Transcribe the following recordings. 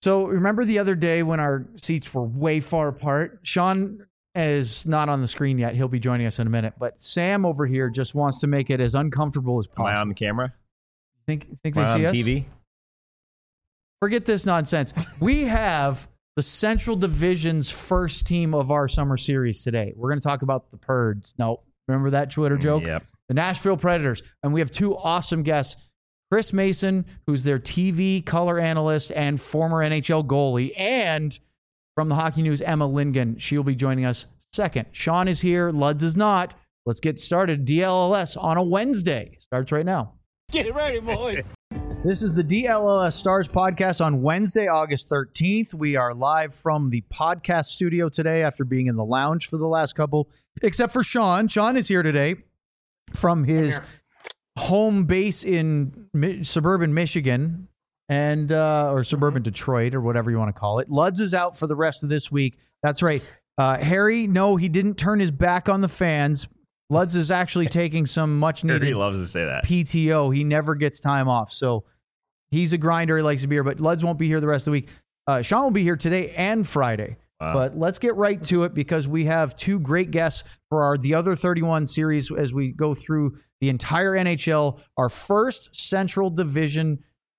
So remember the other day when our seats were way far apart? Sean is not on the screen yet. He'll be joining us in a minute. But Sam over here just wants to make it as uncomfortable as possible. Am I on the camera? Think Am they I see on us? TV? Forget this nonsense. We have the Central Division's first team of our summer series today. We're going to talk about the Purds. No, remember that Twitter joke? Yep. The Nashville Predators. And we have two awesome guests. Chris Mason, who's their TV color analyst and former NHL goalie, and from the Hockey News, Emma Lindgren. She'll be joining us second. Sean is here. Luds is not. Let's get started. DLLS on a Wednesday. Starts right now. Get ready, boys. This is the DLLS Stars podcast on Wednesday, August 13th. We are live from the podcast studio today after being in the lounge for the last couple, except for Sean. Sean is here today from his home base in suburban Michigan and or suburban Detroit or whatever you want to call it. Luds is out for the rest of this week. That's right. Harry, no, he didn't turn his back on the fans. Luds is actually taking some much needed He loves to say that. PTO. He never gets time off. So he's a grinder. He likes a beer, but Luds won't be here the rest of the week. Sean will be here today and Friday. Wow. But let's get right to it because we have two great guests for the Other 31 series as we go through the entire NHL. Our first Central Division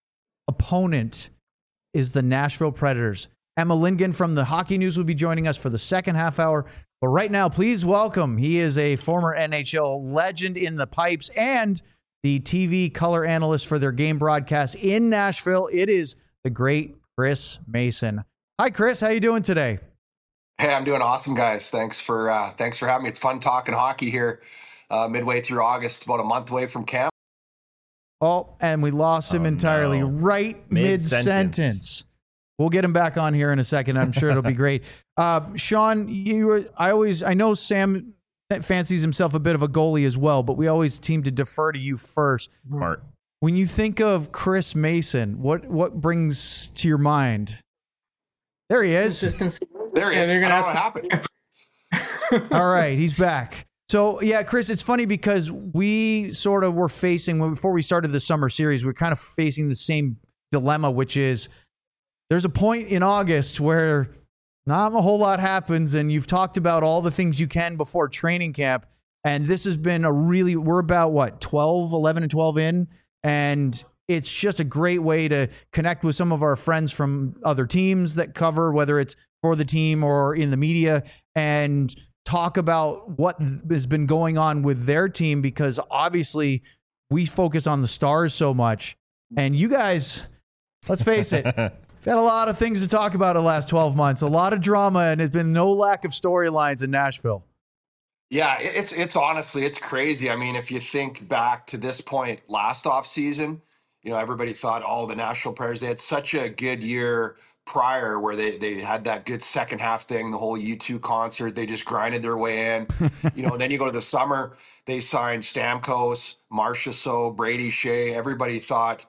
opponent is the Nashville Predators. Emma Lindgren from the Hockey News will be joining us for the second half hour. But right now, please welcome. He is a former NHL legend in the pipes and the TV color analyst for their game broadcast in Nashville. It is the great Chris Mason. Hi, Chris. How you doing today? Hey, I'm doing awesome, guys. Thanks for having me. It's fun talking hockey here midway through August, about a month away from camp. Oh, and we lost him entirely right mid-sentence. We'll get him back on here in a second. I'm sure it'll be great. Sean, I know Sam fancies himself a bit of a goalie as well, but we always seem to defer to you first. Smart. When you think of Chris Mason, what brings to your mind? There he is. Consistency. There he is. They're gonna I ask don't know what happened. All right, he's back. So, yeah, Chris, it's funny because we sort of were facing, before we started the summer series, we're kind of facing the same dilemma, which is there's a point in August where not a whole lot happens, and you've talked about all the things you can before training camp, and this has been we're about, 11 and 12 in, and it's just a great way to connect with some of our friends from other teams that cover, whether it's for the team or in the media, and talk about what has been going on with their team, because obviously we focus on the Stars so much, and you guys, let's face it, we've had a lot of things to talk about in the last 12 months, a lot of drama, and it's been no lack of storylines in Nashville. Yeah, it's honestly, it's crazy. I mean, if you think back to this point last offseason, everybody thought, the Nashville Predators, they had such a good year prior where they had that good second half thing, the whole U2 concert, they just grinded their way in. Then you go to the summer, they signed Stamkos, Marchessault, Brady Shea. Everybody thought,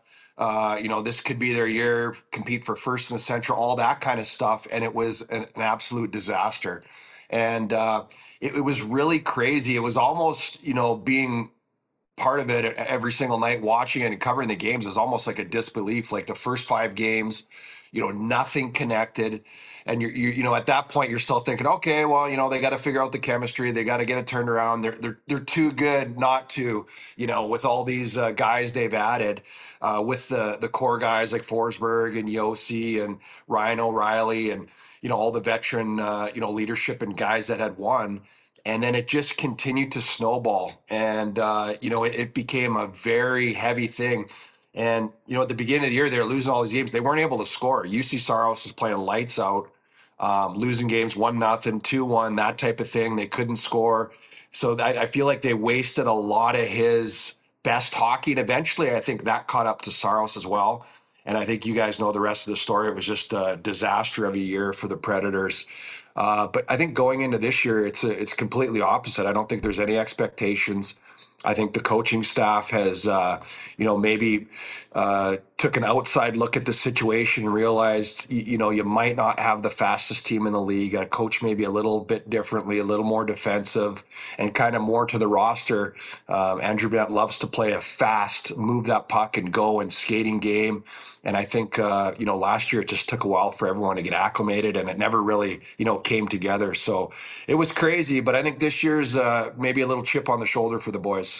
this could be their year, compete for first in the Central, all that kind of stuff. And it was an absolute disaster. And it was really crazy. It was almost, being part of it every single night, watching it and covering the games is almost like a disbelief. Like the first 5 games, nothing connected. And you're at that point, you're still thinking, okay, well, they got to figure out the chemistry. They got to get it turned around. They're too good not to, with all these guys they've added, with the core guys like Forsberg and Yossi and Ryan O'Reilly and, all the veteran, leadership and guys that had won. And then it just continued to snowball. And, it became a very heavy thing. And, at the beginning of the year, they were losing all these games. They weren't able to score. UC Saros was playing lights out, losing games 1-0, 2-1, that type of thing. They couldn't score. So I feel like they wasted a lot of his best hockey. And eventually, I think that caught up to Saros as well. And I think you guys know the rest of the story. It was just a disaster of a year for the Predators. But I think going into this year, it's completely opposite. I don't think there's any expectations. I think the coaching staff has, maybe took an outside look at the situation and realized, you might not have the fastest team in the league. A coach maybe a little bit differently, a little more defensive, and kind of more to the roster. Andrew Bennett loves to play a fast, move that puck and go and skating game. And I think, last year it just took a while for everyone to get acclimated, and it never really, came together. So it was crazy. But I think this year's maybe a little chip on the shoulder for the boys.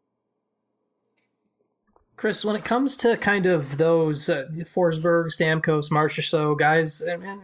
Chris, when it comes to kind of those Forsberg, Stamkos, Marchessault guys,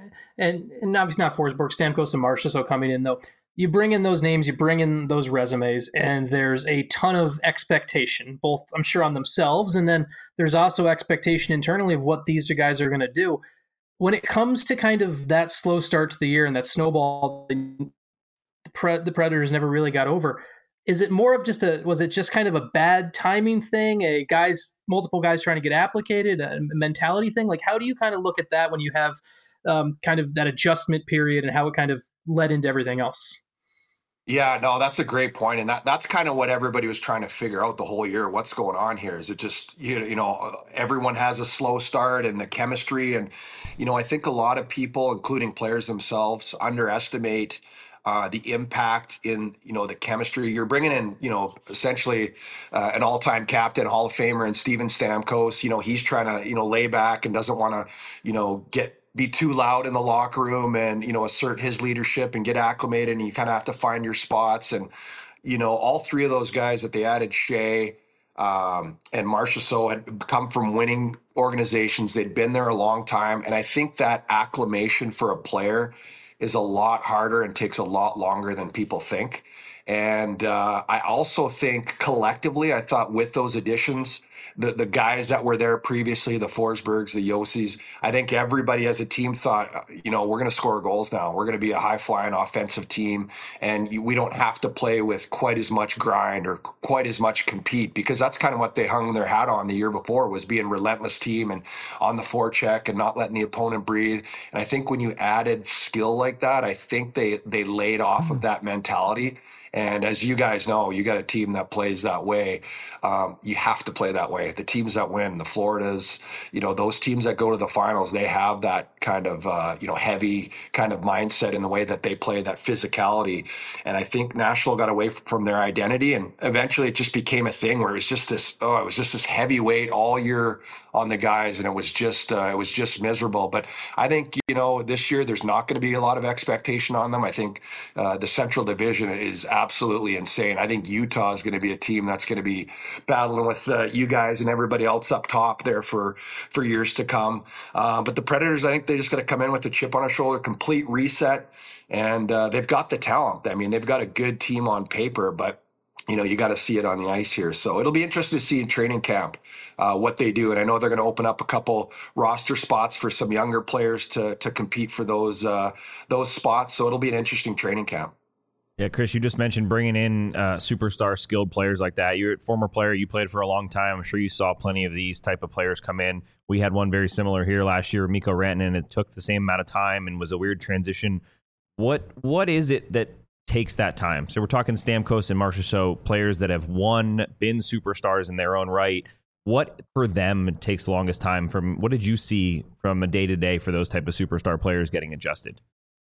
and obviously not Forsberg, Stamkos, and Marchessault coming in though, you bring in those names, you bring in those resumes, and there's a ton of expectation, both I'm sure on themselves, and then there's also expectation internally of what these guys are going to do. When it comes to kind of that slow start to the year and that snowball, the Predators never really got over. Is it more of was it just kind of a bad timing thing, multiple guys trying to get applicated, a mentality thing? Like, how do you kind of look at that when you have kind of that adjustment period and how it kind of led into everything else? Yeah, no, that's a great point, and that's kind of what everybody was trying to figure out the whole year. What's going on here? Is it just everyone has a slow start and the chemistry, and I think a lot of people, including players themselves, underestimate the impact in the chemistry. You're bringing in essentially an all-time captain, Hall of Famer, and Steven Stamkos. He's trying to lay back and doesn't want to be too loud in the locker room and assert his leadership and get acclimated, and you kind of have to find your spots. And all three of those guys that they added, Shea and Marchessault, had come from winning organizations. They'd been there a long time, and I think that acclimation for a player is a lot harder and takes a lot longer than people think. And I also think collectively, I thought with those additions, the guys that were there previously, the Forsbergs, the Yosis, I think everybody as a team thought, we're going to score goals now. We're going to be a high-flying offensive team, and we don't have to play with quite as much grind or quite as much compete, because that's kind of what they hung their hat on the year before, was being a relentless team and on the forecheck and not letting the opponent breathe. And I think when you added skill like that, I think they laid off of that mentality. And as you guys know, you got a team that plays that way. You have to play that way. The teams that win, the Floridas, those teams that go to the finals, they have that kind of, heavy kind of mindset in the way that they play, that physicality. And I think Nashville got away from their identity, and eventually it just became a thing where it was just this heavyweight all year on the guys, and it was just miserable. But I think this year there's not going to be a lot of expectation on them. I think the Central Division is absolutely insane. I think Utah is going to be a team that's going to be battling with you guys and everybody else up top there for years to come. But the Predators, I think they just got to come in with a chip on their shoulder, complete reset, and they've got the talent. I mean, they've got a good team on paper, but you got to see it on the ice here. So it'll be interesting to see in training camp what they do. And I know they're going to open up a couple roster spots for some younger players to compete for those spots. So it'll be an interesting training camp. Yeah, Chris, you just mentioned bringing in superstar skilled players like that. You're a former player. You played for a long time. I'm sure you saw plenty of these type of players come in. We had one very similar here last year, Mikko Rantanen. It took the same amount of time and was a weird transition. What is it that takes that time? So we're talking Stamkos and Marchessault, players that have been superstars in their own right. What for them takes the longest time? What did you see from a day-to-day for those type of superstar players getting adjusted?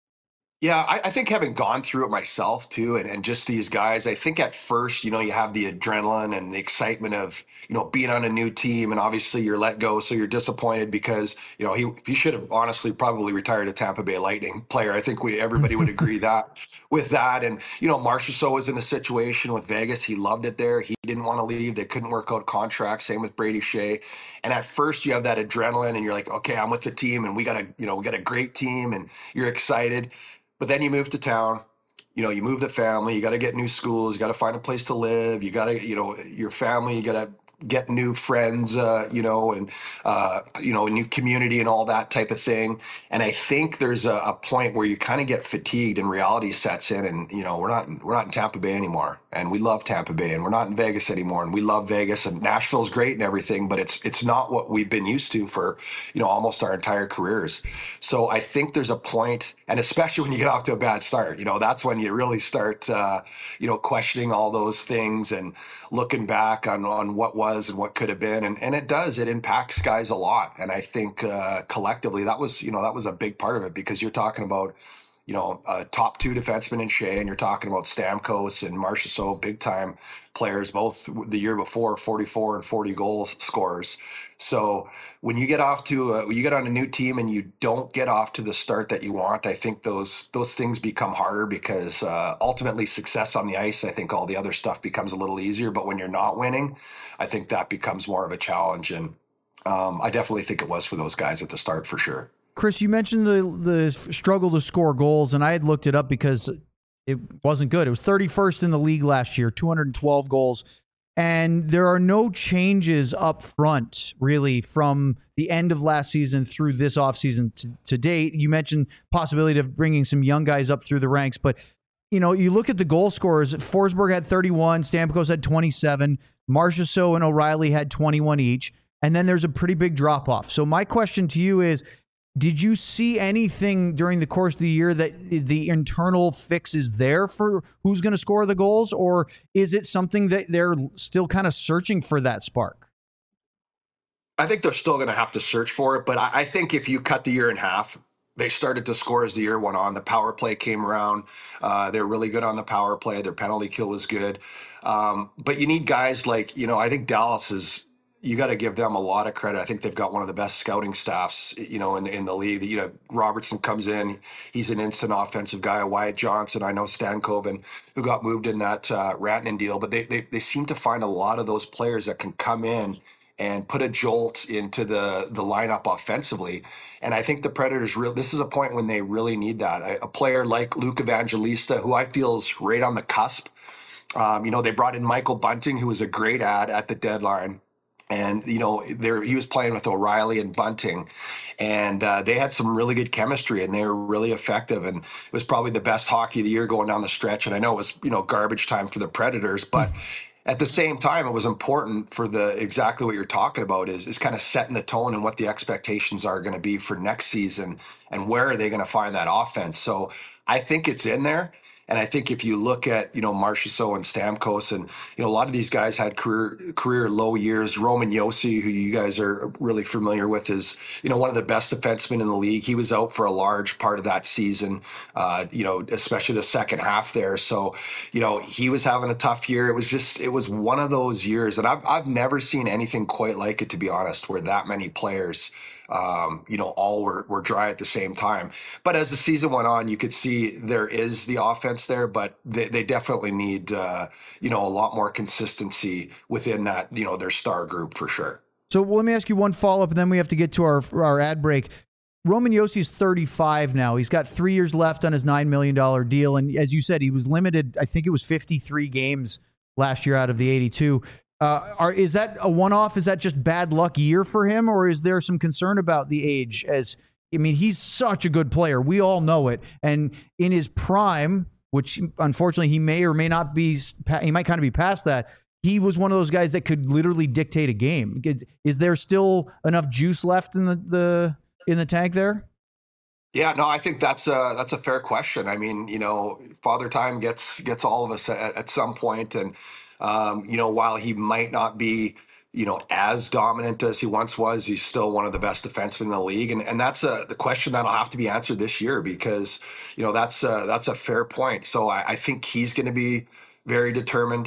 Yeah, I think having gone through it myself too, and just these guys, I think at first, you have the adrenaline and the excitement of, being on a new team, and obviously you're let go. So you're disappointed because, he should have honestly probably retired a Tampa Bay Lightning player. I think everybody would agree with that. And, Marchessault was in a situation with Vegas. He loved it there. He didn't want to leave. They couldn't work out contracts. Same with Brady Shea. And at first you have that adrenaline and you're like, okay, I'm with the team and we got a great team and you're excited. But then you move to town, you move the family, you got to get new schools, you got to find a place to live, you got to, your family, you got to get new friends, and, a new community and all that type of thing. And I think there's a point where you kind of get fatigued and reality sets in and, we're not in Tampa Bay anymore. and we love Tampa Bay, and we're not in Vegas anymore, and we love Vegas, and Nashville's great and everything, but it's not what we've been used to for almost our entire careers. So I think there's a point, and especially when you get off to a bad start, that's when you really start questioning all those things and looking back on what was and what could have been, and it impacts guys a lot. And I think collectively that was a big part of it, because you're talking about a top two defenseman in Shea, and you're talking about Stamkos and Marchessault, big time players, both the year before, 44 and 40 goals scorers. So when you get on a new team and you don't get off to the start that you want, I think those things become harder, because ultimately success on the ice, I think all the other stuff becomes a little easier. But when you're not winning, I think that becomes more of a challenge. And I definitely think it was for those guys at the start, for sure. Chris, you mentioned the struggle to score goals, and I had looked it up because it wasn't good. It was 31st in the league last year, 212 goals. And there are no changes up front, really, from the end of last season through this offseason to date. You mentioned possibility of bringing some young guys up through the ranks, but you look at the goal scorers. Forsberg had 31, Stamkos had 27, Marchessault and O'Reilly had 21 each, and then there's a pretty big drop-off. So my question to you is, did you see anything during the course of the year that the internal fix is there for who's going to score the goals, or is it something that they're still kind of searching for that spark? I think they're still going to have to search for it, but I think if you cut the year in half, they started to score as the year went on. The power play came around. They're really good on the power play. Their penalty kill was good. But you need guys like, I think Dallas is, you got to give them a lot of credit. I think they've got one of the best scouting staffs, in the league. Robertson comes in, he's an instant offensive guy. Wyatt Johnson, I know Stankoven, who got moved in that Rantanen deal, but they seem to find a lot of those players that can come in and put a jolt into the lineup offensively. And I think the Predators this is a point when they really need that. A player like Luke Evangelista, who I feel is right on the cusp. They brought in Michael Bunting, who was a great ad at the deadline. And, he was playing with O'Reilly and Bunting, and they had some really good chemistry, and they were really effective. And it was probably the best hockey of the year going down the stretch. And I know it was, garbage time for the Predators, but at the same time, it was important for exactly what you're talking about is kind of setting the tone and what the expectations are going to be for next season, and where are they going to find that offense. So I think it's in there. And I think if you look at, Marchessault and Stamkos, and, a lot of these guys had career low years. Roman Josi, who you guys are really familiar with, is, one of the best defensemen in the league. He was out for a large part of that season, especially the second half there. So, he was having a tough year. It was one of those years. And I've never seen anything quite like it, to be honest, where that many players all were dry at the same time. But as the season went on, you could see there is the offense there, but they definitely need, a lot more consistency within that, their star group, for sure. So let me ask you one follow-up, and then we have to get to our ad break. Roman Josi's 35 now. He's got 3 years left on his $9 million deal. And as you said, he was limited. I think it was 53 games last year out of the 82. Is that a one-off? Is that just bad luck year for him, or is there some concern about the age? He's such a good player. We all know it. And in his prime, which unfortunately he may or may not be, he might kind of be past that, he was one of those guys that could literally dictate a game. Is there still enough juice left in the tank there? Yeah, no, I think that's a fair question. I mean, Father Time gets all of us at some point, and while he might not be, as dominant as he once was, he's still one of the best defensemen in the league, and that's the question that'll have to be answered this year, because that's a fair point. So I think he's going to be very determined.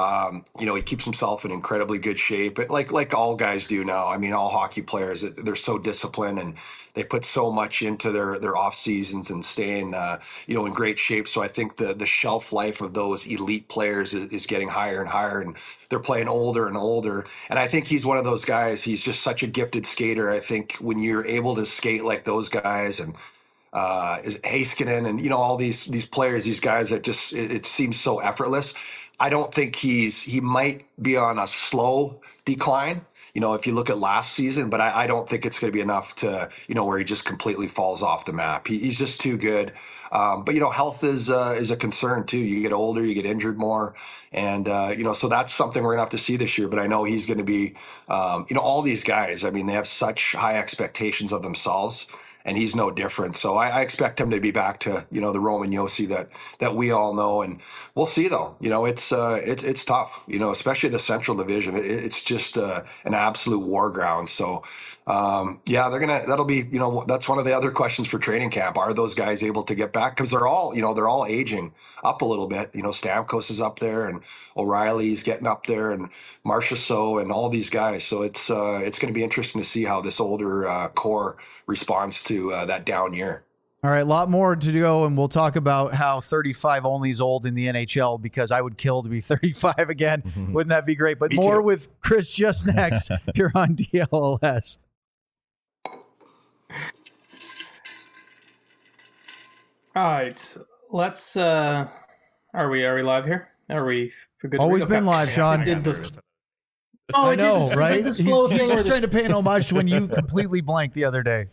He keeps himself in incredibly good shape, like all guys do now. I mean, all hockey players, they're so disciplined, and they put so much into their off seasons and staying, in great shape. So I think the shelf life of those elite players is getting higher and higher, and they're playing older and older. And I think he's one of those guys. He's just such a gifted skater. I think when you're able to skate like those guys, and is Heiskanen and all these players, these guys that just it seems so effortless. I don't think he might be on a slow decline. if you look at last season, but I don't think it's going to be enough to, where he just completely falls off the map. He's just too good. But health is a concern too. You get older, you get injured more, and so that's something we're gonna have to see this year. But I know he's going to be, all these guys. I mean, they have such high expectations of themselves, and he's no different. So I expect him to be back to the Roman Yossi that we all know, and we'll see though. It's tough. Especially the Central Division. It's just an absolute war ground. So that'll be that's one of the other questions for training camp. Are those guys able to get back? Because they're all aging up a little bit. Stamkos is up there, and O'Reilly's getting up there, and Marchessault, and all these guys. So it's going to be interesting to see how this older core responds to that down year. All right, a lot more to go, and we'll talk about how 35 only is old in the NHL, because I would kill to be 35 again. Wouldn't that be great? But more with Chris just next here on DLLS. All right, let's. Are we live here? Are we good? Always been live, Sean. I know, right? Did the slow he's thing. just trying to pay an homage to when you completely blanked the other day.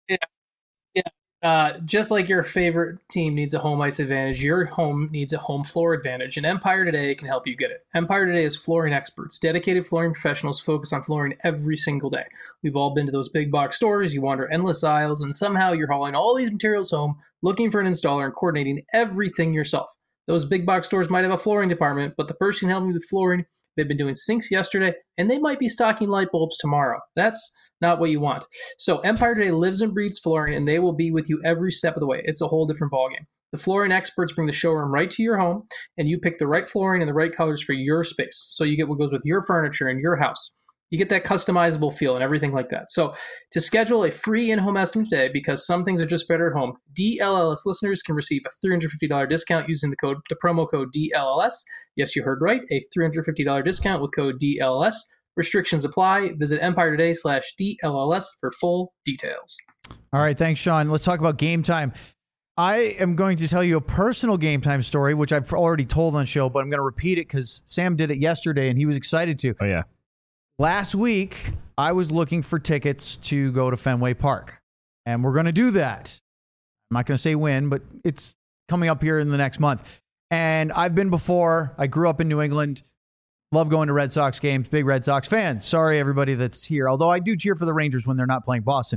Yeah. Just like your favorite team needs a home ice advantage, your home needs a home floor advantage, and Empire Today can help you get it. Empire Today is flooring experts, dedicated flooring professionals focused on flooring every single day. We've all been to those big box stores, you wander endless aisles, and somehow you're hauling all these materials home, looking for an installer and coordinating everything yourself. Those big box stores might have a flooring department, but the person helping you with flooring, they've been doing sinks yesterday, and they might be stocking light bulbs tomorrow. That's not what you want. So Empire Today lives and breathes flooring, and they will be with you every step of the way. It's a whole different ballgame. The flooring experts bring the showroom right to your home, and you pick the right flooring and the right colors for your space. So you get what goes with your furniture in your house. You get that customizable feel and everything like that. So to schedule a free in-home estimate today, because some things are just better at home, DLLS listeners can receive a $350 discount using the promo code DLLS. Yes, you heard right, a $350 discount with code DLLS. Restrictions apply. Visit EmpireToday/DLLS for full details. All right, thanks, Sean. Let's talk about Game Time. I am going to tell you a personal Game Time story, which I've already told on show, but I'm going to repeat it because Sam did it yesterday and he was excited to. Oh, yeah. Last week, I was looking for tickets to go to Fenway Park, and we're going to do that. I'm not going to say when, but it's coming up here in the next month. And I've been before. I grew up in New England. Love going to Red Sox games. Big Red Sox fan. Sorry, everybody that's here. Although I do cheer for the Rangers when they're not playing Boston.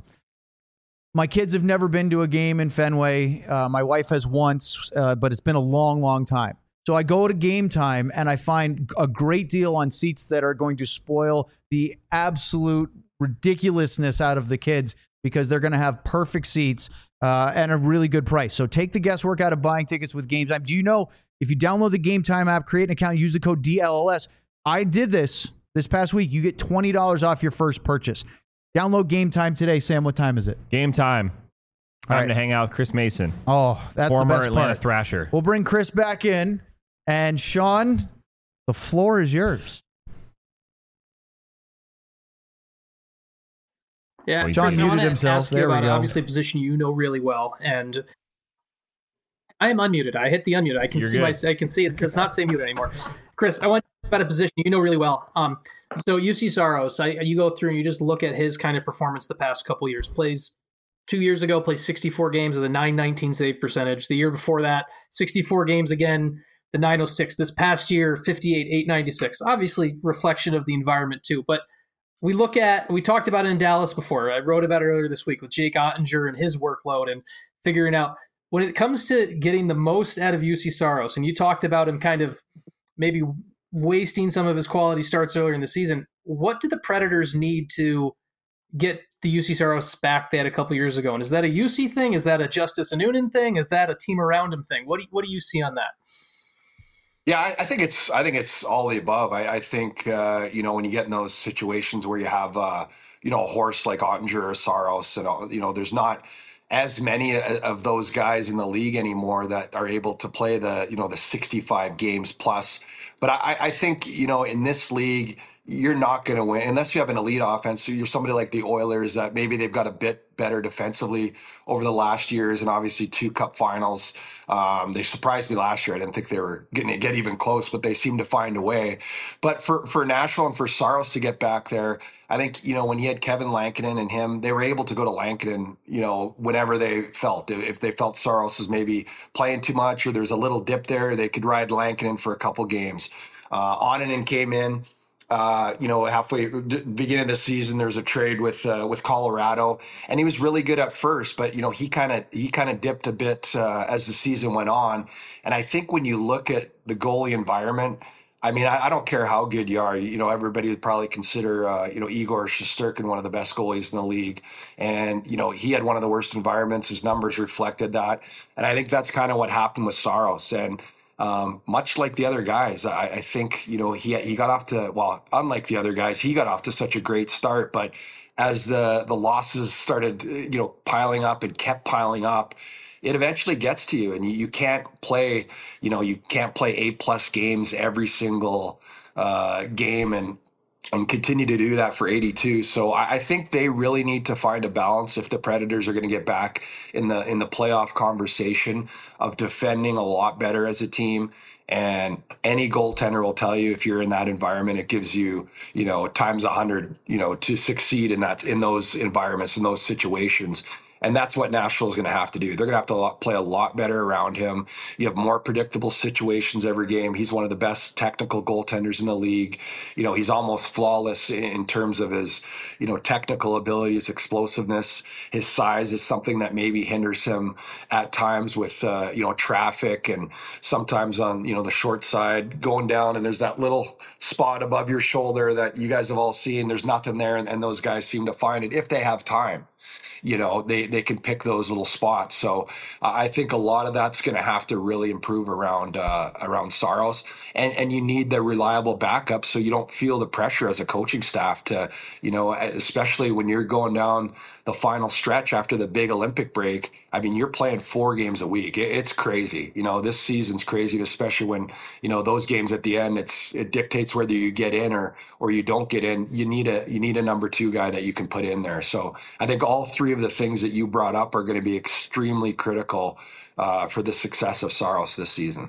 My kids have never been to a game in Fenway. My wife has once, but it's been a long, long time. So I go to Game Time, and I find a great deal on seats that are going to spoil the absolute ridiculousness out of the kids, because they're going to have perfect seats and a really good price. So take the guesswork out of buying tickets with Game Time. Do you know, if you download the Game Time app, create an account, use the code DLLS, I did this past week. You get $20 off your first purchase. Download Game Time today. Sam, what time is it? Game time. Time right to hang out with Chris Mason. Oh, that's former the best Atlanta part. Thrasher. We'll bring Chris back in. And Sean, the floor is yours. Yeah, Sean Chris, I muted wanna himself. ask you There we about go. obviously a position you know really well, and I am unmuted. I hit the unmute. I can You're see good. I can see it does not say mute anymore. Chris, I want to talk about a position you know really well. So UC Saros, you go through and you just look at his kind of performance the past couple years. Plays 2 years ago, plays 64 games as a .919 save percentage. The year before that, 64 games again, the .906. This past year, 58, .896. Obviously, reflection of the environment too. But we talked about it in Dallas before. I wrote about it earlier this week with Jake Ottinger and his workload and figuring out when it comes to getting the most out of UC Saros. And you talked about him kind of maybe wasting some of his quality starts earlier in the season. What do the Predators need to get the UC Saros back they had a couple years ago? And is that a UC thing? Is that a Justice Anunin thing? Is that a team around him thing? What do you see on that? Yeah, I think it's all the above. I think when you get in those situations where you have a horse like Ottinger or Saros, and there's not as many of those guys in the league anymore that are able to play the 65 games plus. But I think in this league, you're not going to win unless you have an elite offense. So you're somebody like the Oilers that maybe they've got a bit better defensively over the last years, and obviously 2 cup finals. They surprised me last year. I didn't think they were going to get even close, but they seemed to find a way. But for Nashville and for Saros to get back there, I think, when he had Kevin Lankinen and him, they were able to go to Lankinen, whenever they felt. If they felt Saros was maybe playing too much or there's a little dip there, they could ride Lankinen for a couple games. Oninen came in. Halfway beginning of the season, there was a trade with Colorado, and he was really good at first, but he kind of dipped a bit as the season went on. And I think when you look at the goalie environment, I mean, I don't care how good you are. Everybody would probably consider Igor Shesterkin one of the best goalies in the league, and he had one of the worst environments. His numbers reflected that, and I think that's kind of what happened with Saros. And much like the other guys, I think he got off to, well, unlike the other guys, he got off to such a great start. But as the losses started piling up and kept piling up, it eventually gets to you, and you can't play A+ games every single game and continue to do that for 82. So I think they really need to find a balance if the Predators are going to get back in the playoff conversation of defending a lot better as a team. And any goaltender will tell you, if you're in that environment, it gives you, times 100, to succeed in those environments, in those situations. And that's what Nashville is going to have to do. They're going to have to play a lot better around him. You have more predictable situations every game. He's one of the best technical goaltenders in the league. He's almost flawless in terms of his, technical ability, his explosiveness. His size is something that maybe hinders him at times with, traffic, and sometimes on, the short side going down, and there's that little spot above your shoulder that you guys have all seen. There's nothing there, and those guys seem to find it if they have time. They can pick those little spots. So I think a lot of that's going to have to really improve around Saros, and you need the reliable backup so you don't feel the pressure as a coaching staff to, especially when you're going down the final stretch after the big Olympic break. I mean, you're playing 4 games a week. It's crazy. This season's crazy, especially when, those games at the end, it dictates whether you get in or you don't get in. You need a number 2 guy that you can put in there. So I think all 3 of the things that you brought up are going to be extremely critical for the success of Saros this season.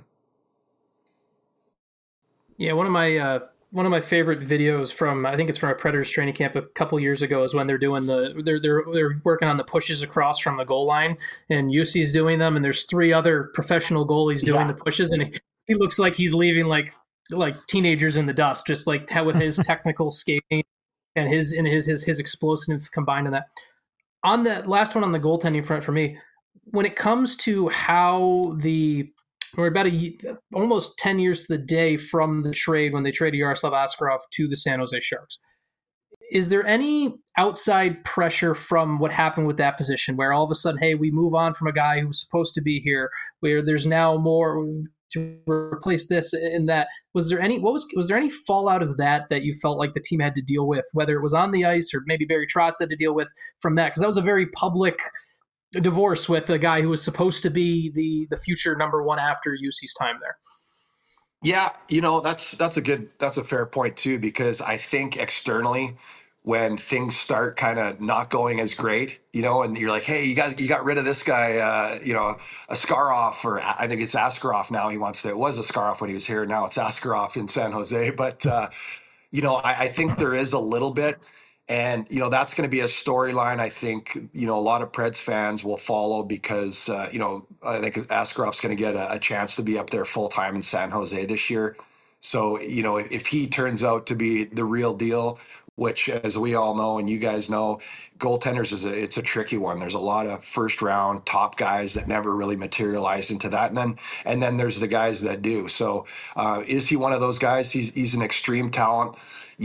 Yeah, one of my favorite videos from, I think it's from a Predators training camp a couple years ago, is when they're doing they're working on the pushes across from the goal line, and UC's doing them, and there's 3 other professional goalies doing the pushes, and he looks like he's leaving like teenagers in the dust, just like how with his technical skating and his explosiveness combined in that. On that last one on the goaltending front for me, when it comes to how we're about almost 10 years to the day from the trade when they traded Yaroslav Askarov to the San Jose Sharks. Is there any outside pressure from what happened with that position where all of a sudden, hey, we move on from a guy who's supposed to be here, where there's now more to replace this and that? Was there any fallout of that you felt like the team had to deal with, whether it was on the ice or maybe Barry Trotz had to deal with from that? Because that was a very public divorce with a guy who was supposed to be the future number 1 after UC's time there. Yeah, that's a fair point too, because I think externally, when things start kind of not going as great, and you're like, hey, you got rid of this guy, Askarov, or I think it's Askarov now. It was Askarov when he was here. Now it's Askarov in San Jose. But, I think there is a little bit. And, that's going to be a storyline I think, a lot of Preds fans will follow because, I think Askarov's going to get a chance to be up there full time in San Jose this year. So, if he turns out to be the real deal, which, as we all know and you guys know, goaltenders it's a tricky one. There's a lot of first round top guys that never really materialized into that, and then there's the guys that do. So is he one of those guys? He's an extreme talent.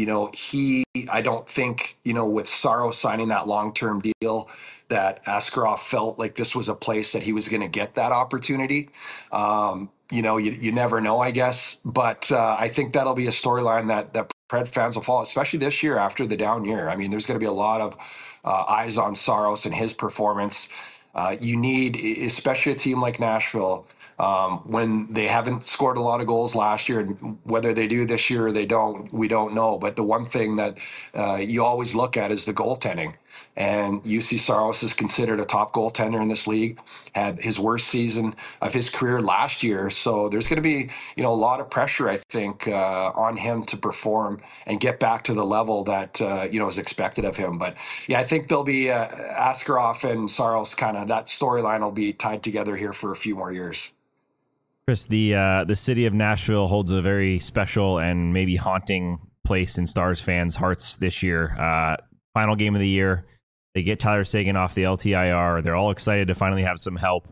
I don't think, with Saros signing that long-term deal, that Askarov felt like this was a place that he was going to get that opportunity. You never know, I guess. But I think that'll be a storyline that Pred fans will follow, especially this year after the down year. I mean, there's going to be a lot of eyes on Saros and his performance. You need, especially a team like Nashville, when they haven't scored a lot of goals last year, and whether they do this year or they don't, we don't know. But the one thing that you always look at is the goaltending. And UC Saros is considered a top goaltender in this league, had his worst season of his career last year. So there's going to be, a lot of pressure, I think, on him to perform and get back to the level that, is expected of him. But yeah, I think there'll be Askarov and Saros, kind of that storyline will be tied together here for a few more years. Chris, the city of Nashville holds a very special and maybe haunting place in Stars fans' hearts this year. Final game of the year. They get Tyler Seguin off the LTIR. They're all excited to finally have some help.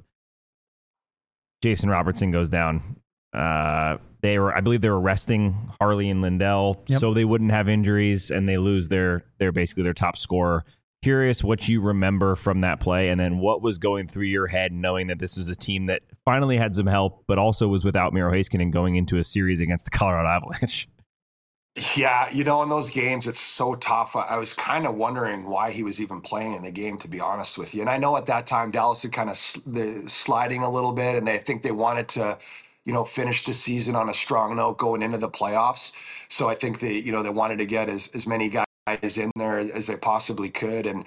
Jason Robertson goes down. I believe they were resting Harley and Lindell so they wouldn't have injuries, and they lose their basically their top scorer. Curious what you remember from that play, and then what was going through your head knowing that this was a team that finally had some help, but also was without Miro Heiskanen going into a series against the Colorado Avalanche. Yeah, in those games, it's so tough. I was kind of wondering why he was even playing in the game, to be honest with you. And I know at that time, Dallas had kind of sliding a little bit, and they think they wanted to, finish the season on a strong note going into the playoffs. So I think they wanted to get as many guys in there as they possibly could. And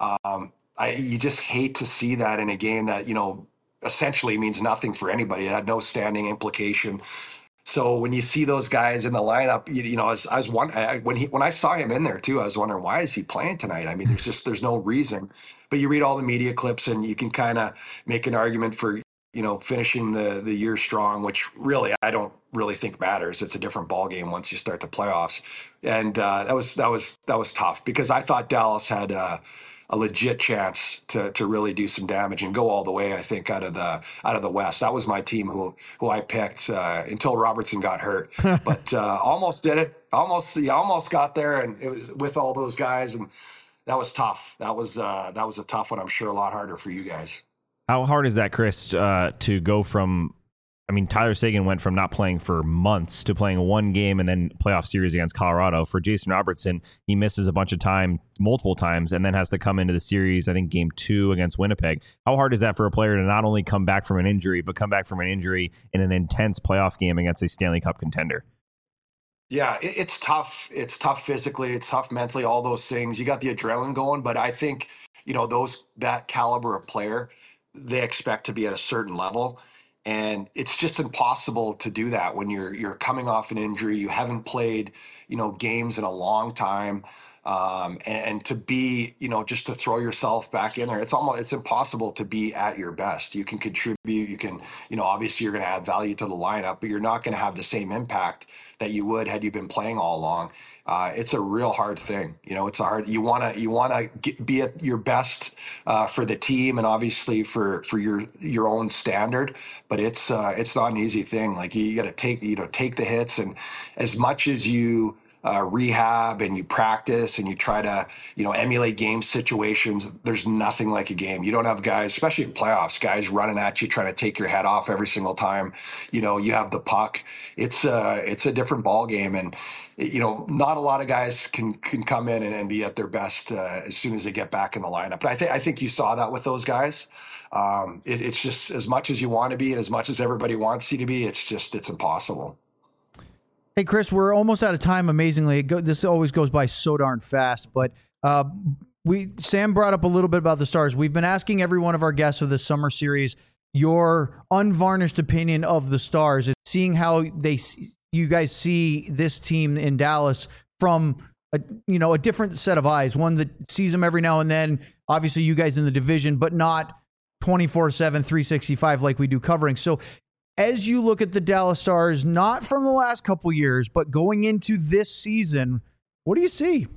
you just hate to see that in a game that, essentially means nothing for anybody. It had no standing implication. So when you see those guys in the lineup, I was wondering when I saw him in there too, I was wondering, why is he playing tonight? I mean, there's no reason. But you read all the media clips and you can kind of make an argument for finishing the year strong, which really I don't really think matters. It's a different ball game once you start the playoffs, and that was tough because I thought Dallas had a legit chance to really do some damage and go all the way. I think out of the West. That was my team who I picked until Robertson got hurt, but almost did it. Almost got there, and it was with all those guys, and that was tough. That was a tough one. I'm sure a lot harder for you guys. How hard is that, Chris, to go from? I mean, Tyler Seguin went from not playing for months to playing one game and then playoff series against Colorado. For Jason Robertson, he misses a bunch of time, multiple times, and then has to come into the series, I think, game 2 against Winnipeg. How hard is that for a player to not only come back from an injury, but come back from an injury in an intense playoff game against a Stanley Cup contender? Yeah, it's tough. It's tough physically. It's tough mentally, all those things. You got the adrenaline going, but I think, that caliber of player, they expect to be at a certain level. And it's just impossible to do that when you're coming off an injury. You haven't played, games in a long time. And to be, just to throw yourself back in there, it's impossible to be at your best. You can contribute, you can, obviously you're going to add value to the lineup, but you're not going to have the same impact that you would had you been playing all along. It's a real hard thing. It's you want to be at your best for the team and obviously for your own standard, but it's not an easy thing. Like you got to take the hits, and as much as you rehab and you practice and you try to, emulate game situations, there's nothing like a game. You don't have guys, especially in playoffs, guys running at you, trying to take your head off every single time, you have the puck. It's a different ball game. And, not a lot of guys can come in and be at their best as soon as they get back in the lineup. But I think you saw that with those guys. It's just as much as you want to be and as much as everybody wants you to be, it's impossible. Hey, Chris, we're almost out of time, amazingly. This always goes by so darn fast, but Sam brought up a little bit about the Stars. We've been asking every one of our guests of this summer series your unvarnished opinion of the Stars, and seeing how you guys see this team in Dallas from a different set of eyes, one that sees them every now and then, obviously you guys in the division, but not 24/7, 365 like we do covering. So as you look at the Dallas Stars, not from the last couple years, but going into this season, what do you see?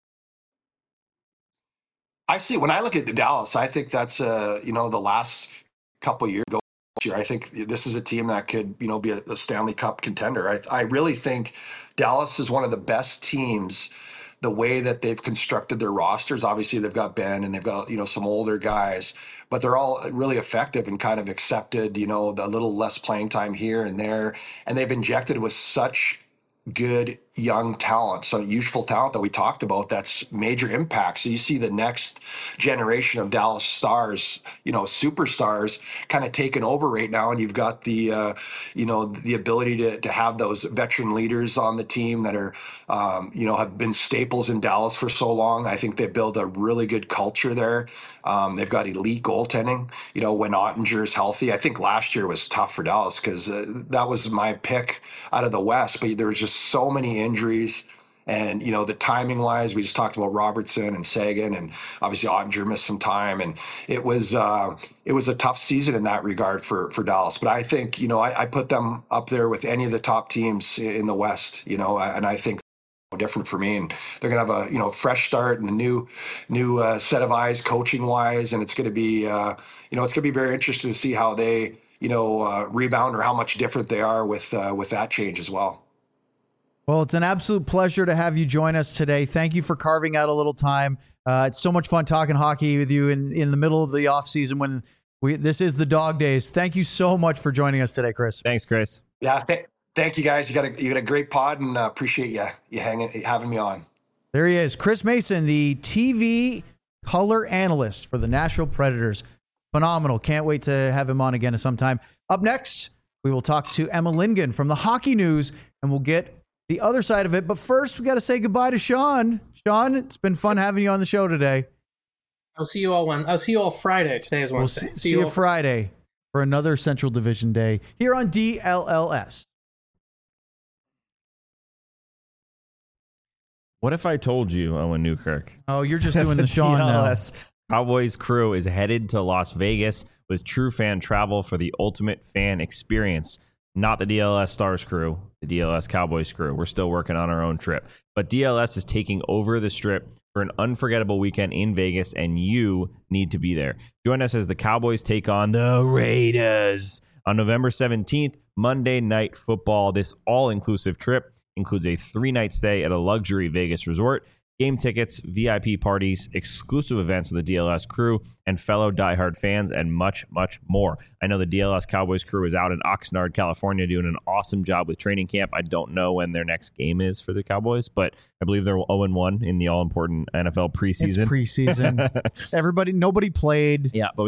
I see. When I look at the Dallas, I think that's the last couple years. I think this is a team that could be a Stanley Cup contender. I really think Dallas is one of the best teams. The way that they've constructed their rosters, obviously they've got Ben and they've got some older guys, but they're all really effective and kind of accepted the little less playing time here and there, and they've injected with such good young talent, some youthful talent that we talked about, that's major impact. So you see the next generation of Dallas Stars, superstars kind of taking over right now. And you've got the ability to have those veteran leaders on the team that are, have been staples in Dallas for so long. I think they build a really good culture there. They've got elite goaltending, when Ottinger is healthy. I think last year was tough for Dallas because that was my pick out of the West, but there was just so many injuries. And, the timing wise, we just talked about Robertson and Sagan, and obviously Ottinger missed some time. And it was a tough season in that regard for Dallas. But I think, I put them up there with any of the top teams in the West, and I think different for me, and they're gonna have a fresh start and a new set of eyes coaching wise, and it's gonna be very interesting to see how they rebound, or how much different they are with that change as well. Well, it's an absolute pleasure to have you join us today. Thank you for carving out a little time. It's so much fun talking hockey with you in the middle of the off season when this is the dog days. Thank you so much for joining us today, Chris. Thanks, Chris. Yeah, thank you guys. You got a great pod, and appreciate you having me on. There he is, Chris Mason, the TV color analyst for the Nashville Predators. Phenomenal. Can't wait to have him on again sometime. Up next, we will talk to Emma Lingen from the Hockey News, and we'll get the other side of it. But first, we got to say goodbye to Sean. Sean, it's been fun having you on the show today. I'll see you all Friday. Today is Wednesday. We'll see you Friday for another Central Division day here on DLLS. What if I told you, Owen Newkirk? Oh, you're just doing the Sean DLS Cowboys crew is headed to Las Vegas with True Fan Travel for the ultimate fan experience. Not the DLS Stars crew, the DLS Cowboys crew. We're still working on our own trip. But DLS is taking over the Strip for an unforgettable weekend in Vegas, and you need to be there. Join us as the Cowboys take on the Raiders on November 17th, Monday Night Football. This all-inclusive trip includes a 3-night stay at a luxury Vegas resort, game tickets, VIP parties, exclusive events with the DLS crew and fellow diehard fans, and much, much more. I know the DLS Cowboys crew is out in Oxnard, California, doing an awesome job with training camp. I don't know when their next game is for the Cowboys, but I believe they're 0-1 in the all-important NFL preseason. It's preseason. Nobody played. Yeah, but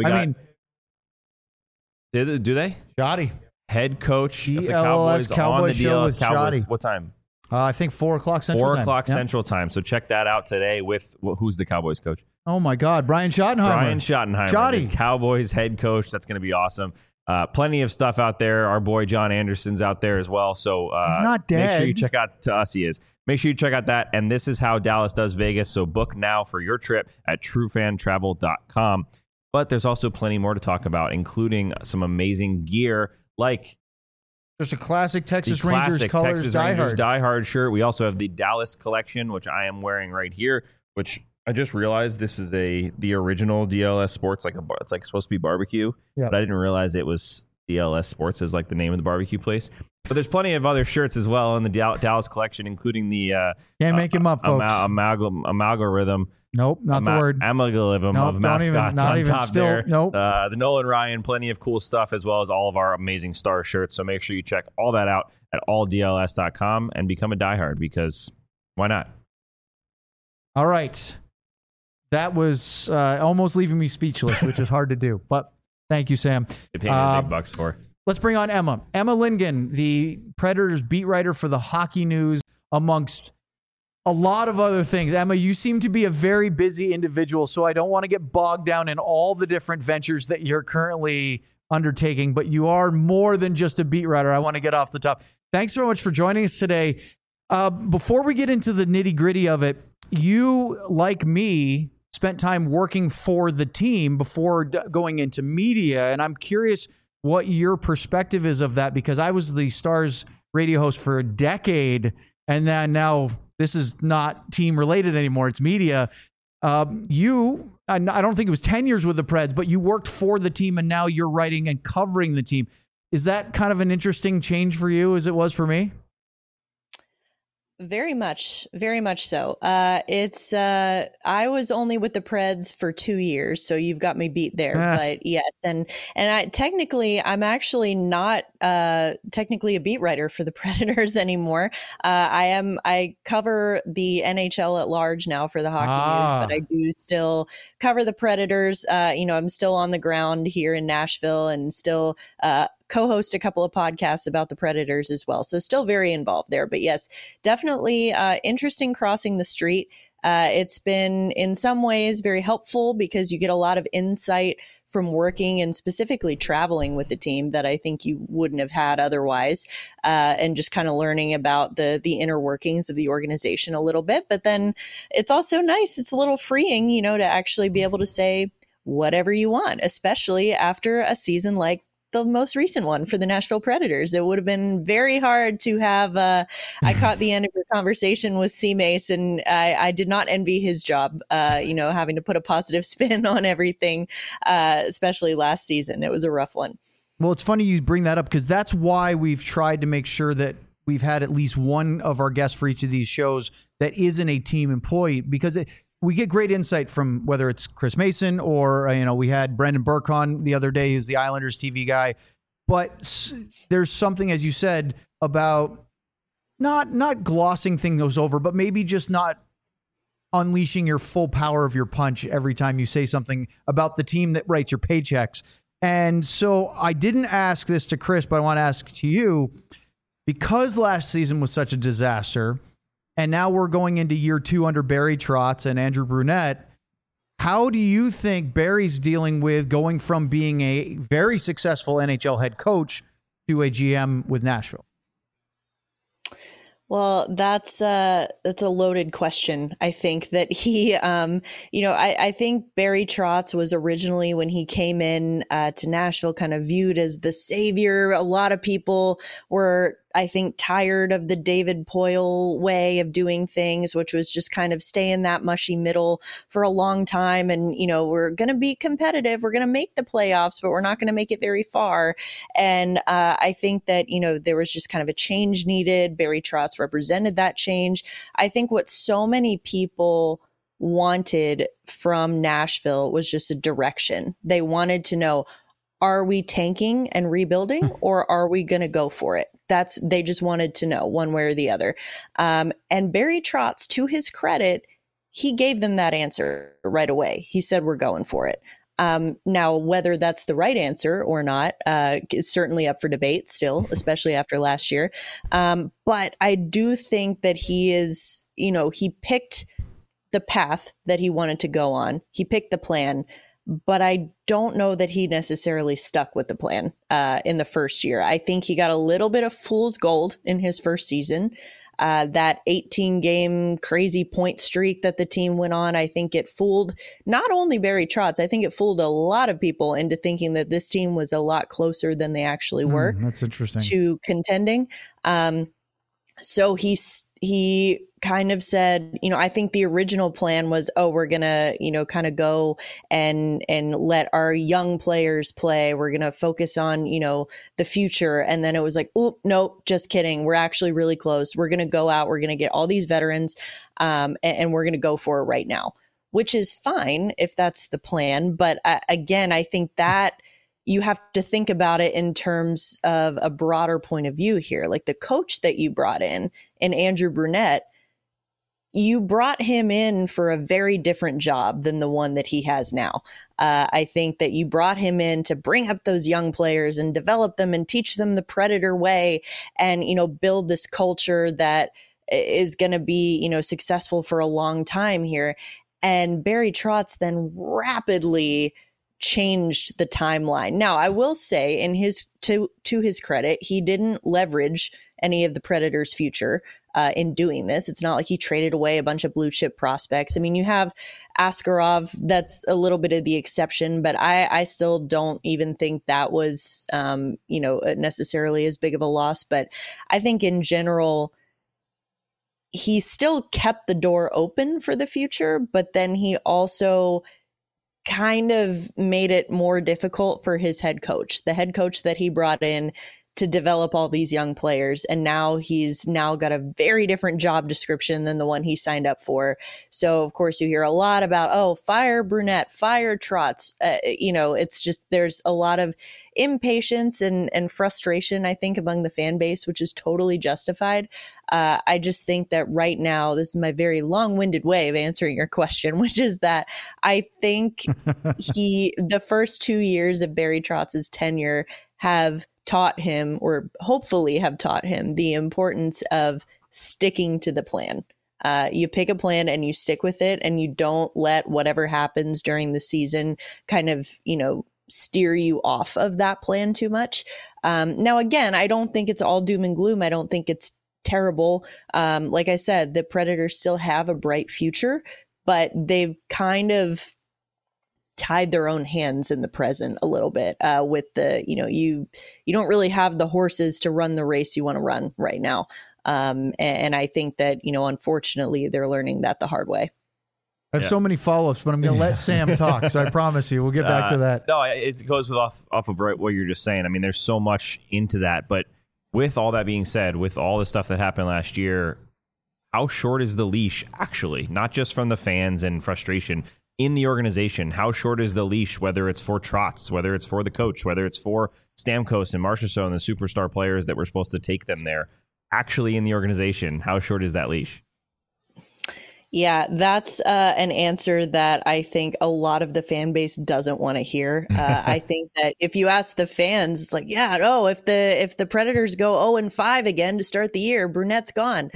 do they? Shoddy. Head coach of the Cowboys on the DLS Cowboys. Shoddy. What time? I think 4 o'clock Central 4 o'clock Central time. So check that out today with who's the Cowboys coach? Oh my God, Brian Schottenheimer. Shoddy. The Cowboys head coach. That's going to be awesome. Plenty of stuff out there. Our boy John Anderson's out there as well. So he's not dead. Make sure you check out. To us, he is. Make sure you check out that. And this is how Dallas does Vegas. So book now for your trip at TrueFanTravel.com. But there's also plenty more to talk about, including some amazing gear like just a classic Texas Rangers colors diehard shirt. We also have the Dallas collection, which I am wearing right here, which I just realized this is the original DLS Sports, it's like supposed to be barbecue, yep. But I didn't realize it was DLS Sports is like the name of the barbecue place. But there's plenty of other shirts as well in the Dallas collection, including the can't make him up, folks. Amalgam. Nope, not the word. Amalgam of mascots on top there. Nope. The Nolan Ryan, plenty of cool stuff, as well as all of our amazing star shirts. So make sure you check all that out at alldls.com and become a diehard, because why not? All right. That was almost leaving me speechless, which is hard to do. But thank you, Sam. They paid me big bucks for. Let's bring on Emma. Emma Lingen, the Predators beat writer for the Hockey News, amongst a lot of other things. Emma, you seem to be a very busy individual, so I don't want to get bogged down in all the different ventures that you're currently undertaking, but you are more than just a beat writer. I want to get off the top. Thanks so much for joining us today. Before we get into the nitty-gritty of it, you, like me, spent time working for the team before going into media, and I'm curious what your perspective is of that, because I was the Stars radio host for a decade, and then now this is not team related anymore. It's media. I don't think it was 10 years with the Preds, but you worked for the team and now you're writing and covering the team. Is that kind of an interesting change for you as it was for me? Very much so. It's I was only with the Preds for 2 years, so you've got me beat there. But yes, and I'm actually not technically a beat writer for the Predators anymore. I cover the NHL at large now for the Hockey News, but I do still cover the Predators. I'm still on the ground here in Nashville and still co-host a couple of podcasts about the Predators as well. So still very involved there. But yes, definitely interesting crossing the street. It's been in some ways very helpful because you get a lot of insight from working and specifically traveling with the team that I think you wouldn't have had otherwise, and just kind of learning about the inner workings of the organization a little bit. But then it's also nice. It's a little freeing, to actually be able to say whatever you want, especially after a season like the most recent one for the Nashville Predators. It would have been very hard to have, I caught the end of your conversation with C. Mace, and I did not envy his job, having to put a positive spin on everything, especially last season. It was a rough one. Well, it's funny you bring that up because that's why we've tried to make sure that we've had at least one of our guests for each of these shows that isn't a team employee, because we get great insight from whether it's Chris Mason or, we had Brendan Burke on the other day, who's the Islanders TV guy. But there's something, as you said, about not glossing things over, but maybe just not unleashing your full power of your punch every time you say something about the team that writes your paychecks. And so I didn't ask this to Chris, but I want to ask to you, because last season was such a disaster, and now we're going into year 2 under Barry Trotz and Andrew Brunette. How do you think Barry's dealing with going from being a very successful NHL head coach to a GM with Nashville? Well, that's a loaded question. I think that he, I think Barry Trotz was originally, when he came in to Nashville, kind of viewed as the savior. A lot of people were, I think, tired of the David Poile way of doing things, which was just kind of stay in that mushy middle for a long time. And, we're going to be competitive. We're going to make the playoffs, but we're not going to make it very far. And I think that, there was just kind of a change needed. Barry Trotz represented that change. I think what so many people wanted from Nashville was just a direction. They wanted to know, are we tanking and rebuilding, or are we going to go for it? They just wanted to know one way or the other. And Barry Trotz, to his credit, he gave them that answer right away. He said, we're going for it. Now, whether that's the right answer or not is certainly up for debate still, especially after last year. But I do think that he is, he picked the path that he wanted to go on. He picked the plan. But I don't know that he necessarily stuck with the plan in the first year. I think he got a little bit of fool's gold in his first season. That 18-game crazy point streak that the team went on, I think it fooled not only Barry Trotz, I think it fooled a lot of people into thinking that this team was a lot closer than they actually were. That's interesting. To contending. So he kind of said, I think the original plan was, we're going to, kind of go and let our young players play. We're going to focus on, the future. And then it was like, oop, nope, just kidding. We're actually really close. We're going to go out. We're going to get all these veterans and we're going to go for it right now, which is fine if that's the plan. But again, I think that you have to think about it in terms of a broader point of view here. Like the coach that you brought in Andrew Brunette, you brought him in for a very different job than the one that he has now. I think that you brought him in to bring up those young players and develop them and teach them the Predator way and, build this culture that is going to be, successful for a long time here. And Barry Trotz then rapidly changed the timeline. Now, I will say, in to his credit, he didn't leverage any of the Predators' future in doing this. It's not like he traded away a bunch of blue chip prospects. I mean, you have Askarov, that's a little bit of the exception, but I still don't even think that was, necessarily as big of a loss. But I think in general, he still kept the door open for the future, but then he also kind of made it more difficult for his head coach. The head coach that he brought in to develop all these young players. And now he's now got a very different job description than the one he signed up for. So of course you hear a lot about, oh, fire Brunette, fire Trotz. It's just, there's a lot of impatience and frustration, I think, among the fan base, which is totally justified. I just think that right now, this is my very long-winded way of answering your question, which is that I think the first 2 years of Barry Trotz's tenure have taught him, or hopefully have taught him, the importance of sticking to the plan. You pick a plan and you stick with it, and you don't let whatever happens during the season kind of, steer you off of that plan too much. Now, again, I don't think it's all doom and gloom. I don't think it's terrible. Like I said, the Predators still have a bright future, but they've kind of tied their own hands in the present a little bit with the, you don't really have the horses to run the race you want to run right now. And I think that, unfortunately, they're learning that the hard way. I have so many follow-ups, but I'm going to let Sam talk. So I promise you, we'll get back to that. No, it goes off of what you're just saying. I mean, there's so much into that. But with all that being said, with all the stuff that happened last year, how short is the leash actually? Not just from the fans and frustration in the organization. How short is the leash, whether it's for Trotz, whether it's for the coach, whether it's for Stamkos and Marchessault and the superstar players that were supposed to take them there? Actually in the organization, how short is that leash? Yeah, that's an answer that I think a lot of the fan base doesn't want to hear. I think that if you ask the fans, it's like, yeah, no, if the Predators go 0-5 again to start the year, Brunette's gone.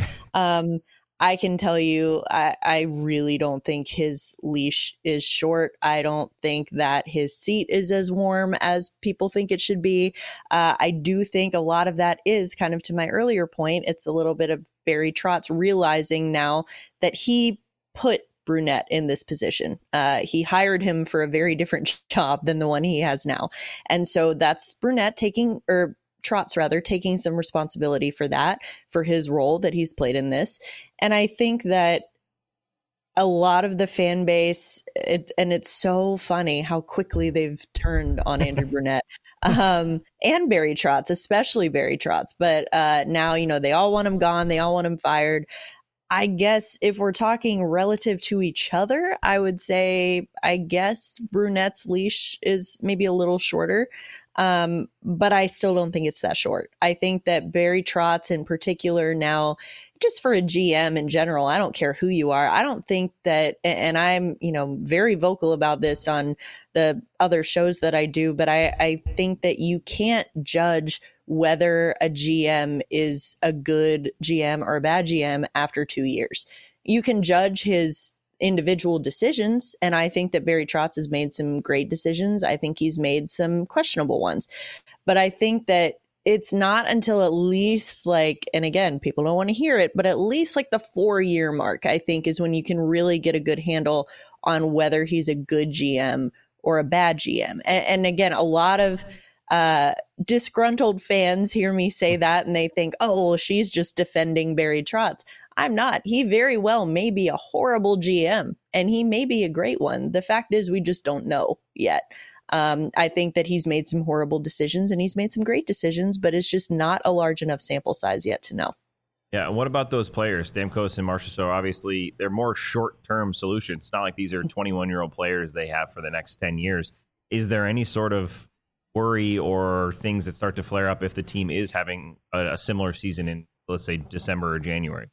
I can tell you, I really don't think his leash is short. I don't think that his seat is as warm as people think it should be. I do think a lot of that is kind of to my earlier point. It's a little bit of Barry Trotz realizing now that he put Brunette in this position. He hired him for a very different job than the one he has now. And so that's Brunette Trotz taking some responsibility for that, for his role that he's played in this. And I think that a lot of the fan base, and it's so funny how quickly they've turned on Andrew Brunette and Barry Trotz, especially Barry Trotz. But now, they all want him gone. They all want him fired. I guess if we're talking relative to each other, I would say, I guess Brunette's leash is maybe a little shorter, but I still don't think it's that short. I think that Barry Trotz in particular now, just for a GM in general, I don't care who you are. I don't think that, and I'm, very vocal about this on the other shows that I do, but I think that you can't judge whether a GM is a good GM or a bad GM after 2 years. You can judge his individual decisions, and I think that Barry Trotz has made some great decisions. I think he's made some questionable ones. But I think that it's not until at least and again, people don't want to hear it, but at least the 4-year mark, I think, is when you can really get a good handle on whether he's a good GM or a bad GM. And again, a lot of disgruntled fans hear me say that and they think, oh, well, she's just defending Barry Trotz. I'm not. He very well may be a horrible GM and he may be a great one. The fact is, we just don't know yet. I think that he's made some horrible decisions and he's made some great decisions, but it's just not a large enough sample size yet to know. Yeah, and what about those players, Stamkos and Marchessault? Obviously, they're more short-term solutions. It's not like these are 21-year-old players they have for the next 10 years. Is there any sort of worry or things that start to flare up if the team is having a similar season in, let's say, December or January?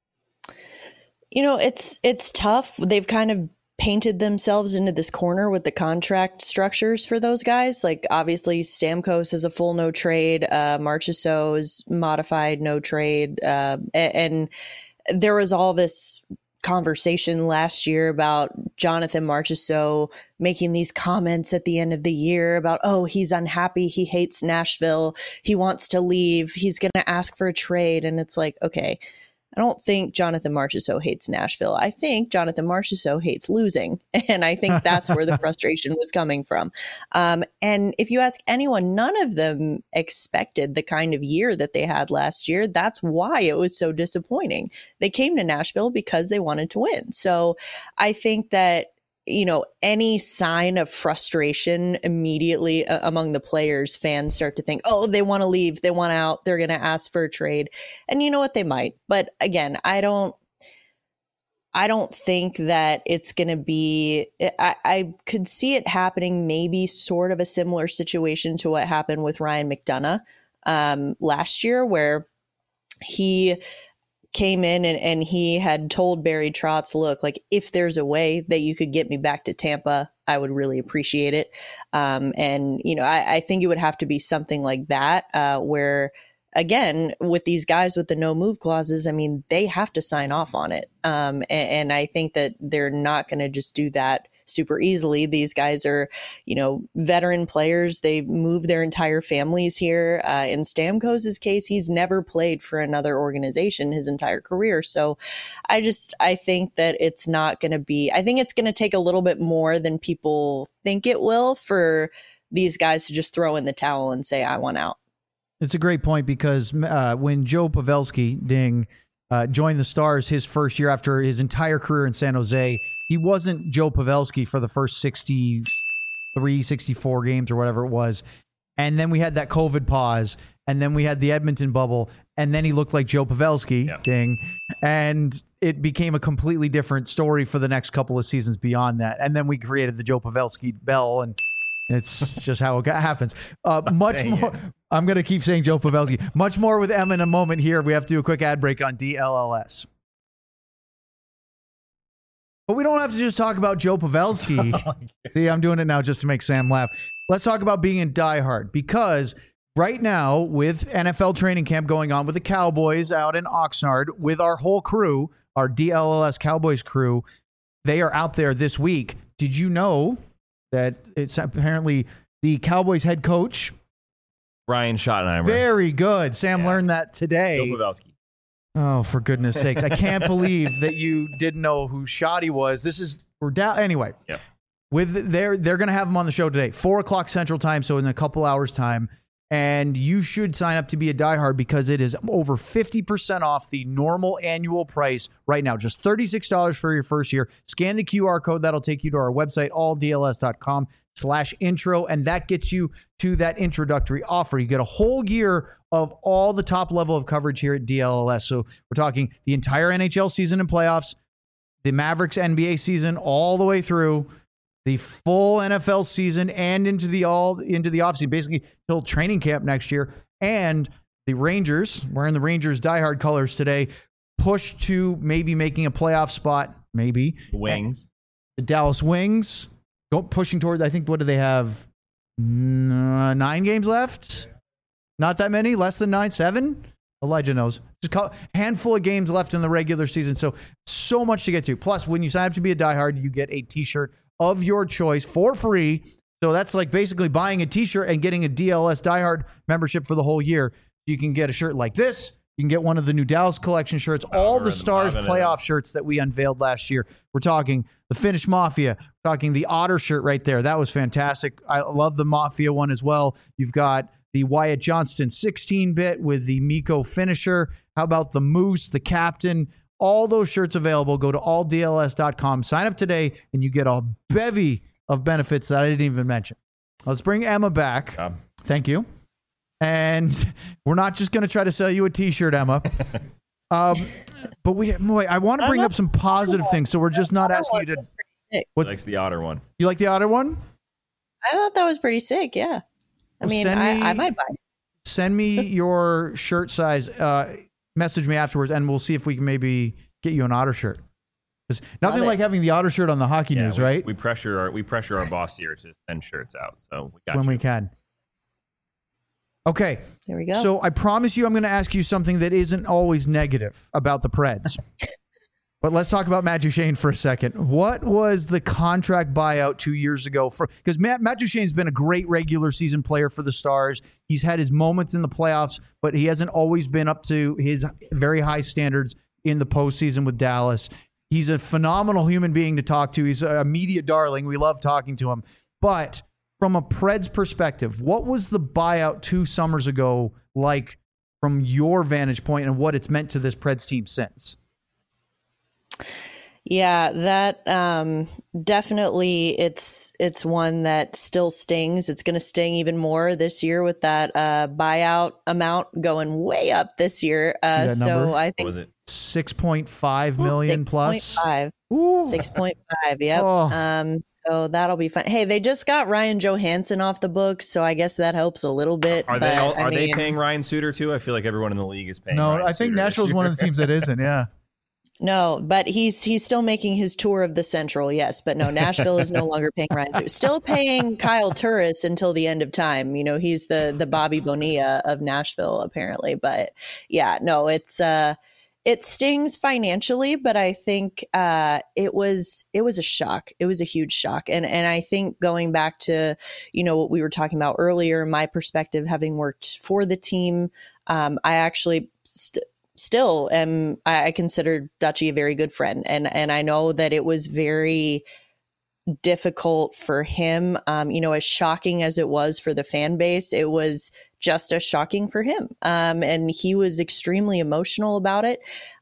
It's tough. They've kind of painted themselves into this corner with the contract structures for those guys. Obviously Stamkos is a full no trade, Marchessault is modified no trade, and there was all this conversation last year about Jonathan Marchessault making these comments at the end of the year about, oh, he's unhappy, he hates Nashville, he wants to leave, he's going to ask for a trade. And it's like, okay, I don't think Jonathan Marchessault hates Nashville. I think Jonathan Marchessault hates losing. And I think that's where the frustration was coming from. And if you ask anyone, none of them expected the kind of year that they had last year. That's why it was so disappointing. They came to Nashville because they wanted to win. So I think that any sign of frustration immediately among the players, fans start to think, oh, they want to leave, they want out, they're going to ask for a trade. And you know what, they might. But again, I don't think that it's going to be, I could see it happening, maybe sort of a similar situation to what happened with Ryan McDonough last year, where he came in and he had told Barry Trotz, look, like, if there's a way that you could get me back to Tampa, I would really appreciate it. I think it would have to be something like that, where, again, with these guys with the no move clauses, I mean, they have to sign off on it. And I think that they're not going to just do that super easily. These guys are, veteran players. They move their entire families here. In Stamkos' case, he's never played for another organization his entire career. So I think that it's not going to be, I think it's going to take a little bit more than people think it will for these guys to just throw in the towel and say, I want out. It's a great point, because when Joe Pavelski, joined the Stars his first year after his entire career in San Jose, he wasn't Joe Pavelski for the first 63, 64 games or whatever it was. And then we had that COVID pause, and then we had the Edmonton bubble, and then he looked like Joe Pavelski, and it became a completely different story for the next couple of seasons beyond that. And then we created the Joe Pavelski bell, and it's just how it happens. Much more. I'm going to keep saying Joe Pavelski. Much more with Emma in a moment here. We have to do a quick ad break on DLLS. But we don't have to just talk about Joe Pavelski. See, I'm doing it now just to make Sam laugh. Let's talk about being in Die Hard, because right now, with NFL training camp going on with the Cowboys out in Oxnard, with our whole crew, our DLLS Cowboys crew, they are out there this week. Did you know that it's apparently the Cowboys head coach, Ryan Schottenheimer? Very good. Sam learned that today. Joe Pavelski. Oh, for goodness sakes. I can't believe that you didn't know who Shotty was. We're down. Anyway, they're going to have him on the show today, 4:00 Central Time. So in a couple hours time. And you should sign up to be a diehard, because it is over 50% off the normal annual price right now. Just $36 for your first year. Scan the QR code. That'll take you to our website, alldls.com/intro. And that gets you to that introductory offer. You get a whole year of all the top level of coverage here at DLLS. So we're talking the entire NHL season and playoffs, the Mavericks NBA season all the way through, the full NFL season, and into the offseason, basically till training camp next year. And the Rangers, wearing the Rangers diehard colors today, push to maybe making a playoff spot, maybe. Wings. The Dallas Wings pushing toward, I think, what do they have? 9 games left? Not that many? Less than 9? 7? Elijah knows. Just a handful of games left in the regular season. So much to get to. Plus, when you sign up to be a diehard, you get a t-shirt of your choice for free. So that's like basically buying a t-shirt and getting a DLS diehard membership for the whole year. You can get a shirt like this. You can get one of the new Dallas collection shirts, all the Stars playoff shirts that we unveiled last year. We're talking the Finnish Mafia, we're talking the Otter shirt right there. That was fantastic. I love the Mafia one as well. You've got the Wyatt Johnston 16-bit with the Mikko finisher. How about the Moose, the Captain? All those shirts available. Go to alldls.com. Sign up today, and you get a bevy of benefits that I didn't even mention. Let's bring Emma back. Thank you. And we're not just going to try to sell you a t-shirt, Emma. But I want to bring up some positive things, so we're just not asking you to. He likes the Otter one. You like the Otter one? I thought that was pretty sick, yeah. I might buy it. Send me your shirt size. Message me afterwards, and we'll see if we can maybe get you an Otter shirt. There's nothing like having the Otter shirt on the hockey news, right? We pressure our boss here to send shirts out, so we got when we can. Okay, there we go. So I promise you, I'm going to ask you something that isn't always negative about the Preds. But let's talk about Matt Duchene for a second. What was the contract buyout 2 years ago? Because Matt Duchene's been a great regular season player for the Stars. He's had his moments in the playoffs, but he hasn't always been up to his very high standards in the postseason with Dallas. He's a phenomenal human being to talk to. He's a media darling. We love talking to him. But from a Preds perspective, what was the buyout 2 summers ago like from your vantage point, and what it's meant to this Preds team since? Yeah, that definitely it's one that still stings. It's going to sting even more this year with that buyout amount going way up this year. that So number? I What think was it? 6.5 million plus. 6.5. Ooh. 6.5, yep. Oh. So that'll be fun. Hey, they just got Ryan Johansson off the books, so I guess that helps a little bit. Are but, they paying Ryan Suter too? I feel like everyone in the league is paying. No, Ryan I think Suter Nashville's this one of year. the teams that isn't. Yeah. No, but he's still making his tour of the Central, yes. But no, Nashville is no longer paying Ryan Suter. Still paying Kyle Turris until the end of time. You know, he's the Bobby Bonilla of Nashville, apparently. But yeah, no, it stings financially, but I think it was a shock. It was a huge shock, and I think going back to what we were talking about earlier, my perspective, having worked for the team, I actually still am. I consider Dutchy a very good friend, and I know that it was very difficult for him. As shocking as it was for the fan base, it was just as shocking for him. And he was extremely emotional about it.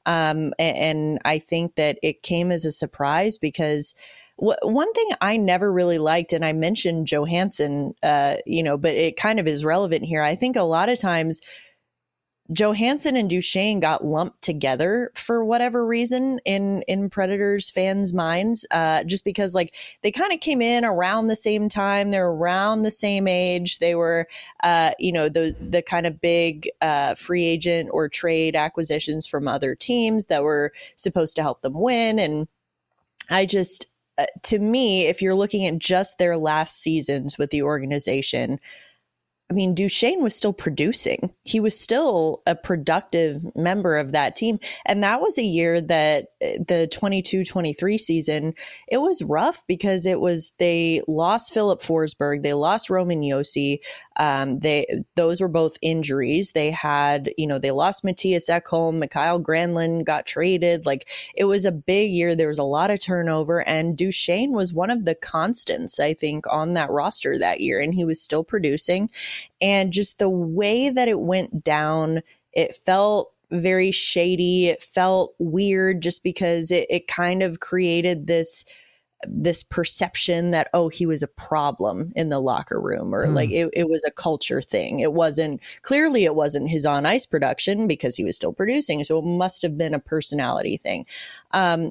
And I think that it came as a surprise because one thing I never really liked, and I mentioned Johansson, but it kind of is relevant here. I think a lot of times Johansson and Duchene got lumped together for whatever reason in Predators fans' minds, just because like they kind of came in around the same time. They're around the same age. They were, the kind of big free agent or trade acquisitions from other teams that were supposed to help them win. And I just, to me, if you're looking at just their last seasons with the organization, I mean, Duchene was still producing. He was still a productive member of that team. And that was a year that the 22-23 season, it was rough because they lost Philip Forsberg. They lost Roman Josi. Those were both injuries. They had, they lost Matthias Ekholm. Mikael Granlund got traded. Like, it was a big year. There was a lot of turnover, and Duchene was one of the constants, I think, on that roster that year. And he was still producing. And just the way that it went down, it felt very shady. It felt weird just because it kind of created this perception that, oh, he was a problem in the locker room, or like it was a culture thing. It wasn't his on ice production because he was still producing. So it must have been a personality thing. I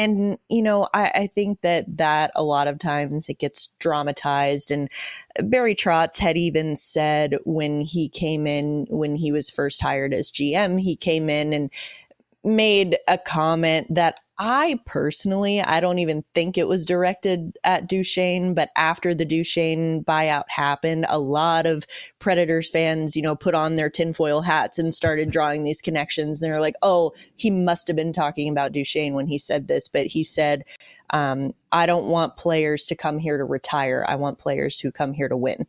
think that a lot of times it gets dramatized, and Barry Trotz had even said when he came in, when he was first hired as GM, he came in and made a comment that I don't even think it was directed at Duchene, but after the Duchene buyout happened, a lot of Predators fans, put on their tinfoil hats and started drawing these connections. And they're like, oh, he must have been talking about Duchene when he said this, but he said, I don't want players to come here to retire. I want players who come here to win.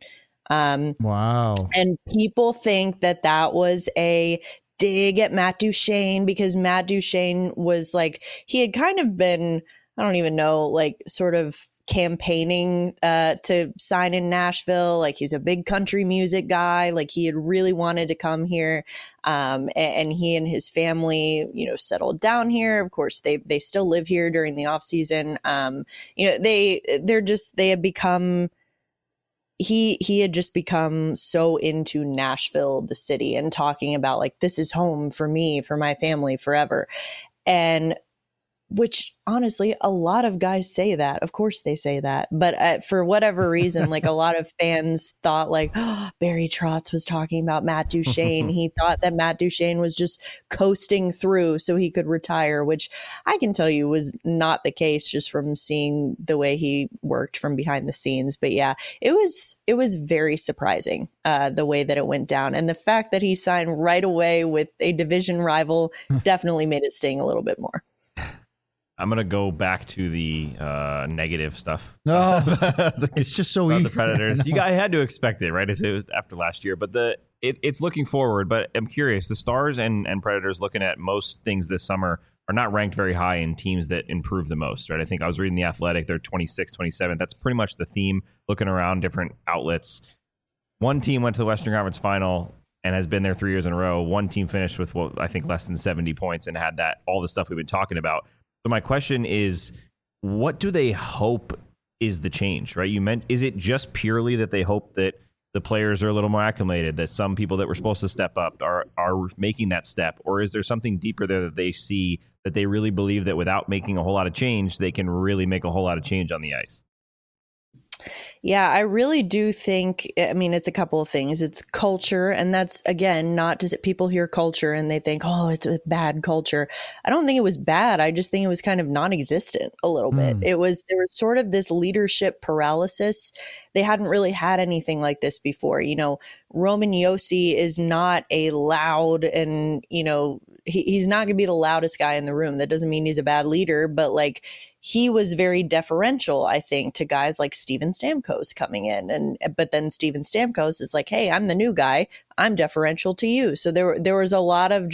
Wow. And people think that was a dig at Matt Duchene because Matt Duchene was like, he had kind of been, I don't even know, like sort of campaigning to sign in Nashville. Like, he's a big country music guy. Like, he had really wanted to come here. And he and his family, settled down here. Of course, they still live here during the off season. They had become, he had just become so into Nashville, the city, and talking about like, this is home for me, for my family forever. And which honestly, a lot of guys say that. Of course they say that. But for whatever reason, like a lot of fans thought like, oh, Barry Trotz was talking about Matt Duchene. He thought that Matt Duchene was just coasting through so he could retire, which I can tell you was not the case just from seeing the way he worked from behind the scenes. But yeah, it was very surprising the way that it went down. And the fact that he signed right away with a division rival definitely made it sting a little bit more. I'm going to go back to the negative stuff. No, it's just so easy. The Predators. I had to expect it, right? It was after last year. But it's looking forward. But I'm curious. The Stars and Predators, looking at most things this summer, are not ranked very high in teams that improve the most, right? I think I was reading The Athletic. They're 26, 27. That's pretty much the theme, looking around different outlets. One team went to the Western Conference Final and has been there 3 years in a row. One team finished with, I think, less than 70 points and had all the stuff we've been talking about. So my question is, what do they hope is the change, right? You meant, is it just purely that they hope that the players are a little more acclimated, that some people that were supposed to step up are making that step? Or is there something deeper there that they see, that they really believe that without making a whole lot of change, they can really make a whole lot of change on the ice? Yeah, I really do think, I mean, it's a couple of things. It's culture. And that's, again, not to people hear culture and they think, oh, it's a bad culture. I don't think it was bad. I just think it was kind of non-existent a little bit. There was sort of this leadership paralysis. They hadn't really had anything like this before. You know, Roman Josi is not a loud and, you know, he's not going to be the loudest guy in the room. That doesn't mean he's a bad leader, but like, he was very deferential, I think, to guys like Steven Stamkos coming in. But then Steven Stamkos is like, hey, I'm the new guy. I'm deferential to you. So there was a lot of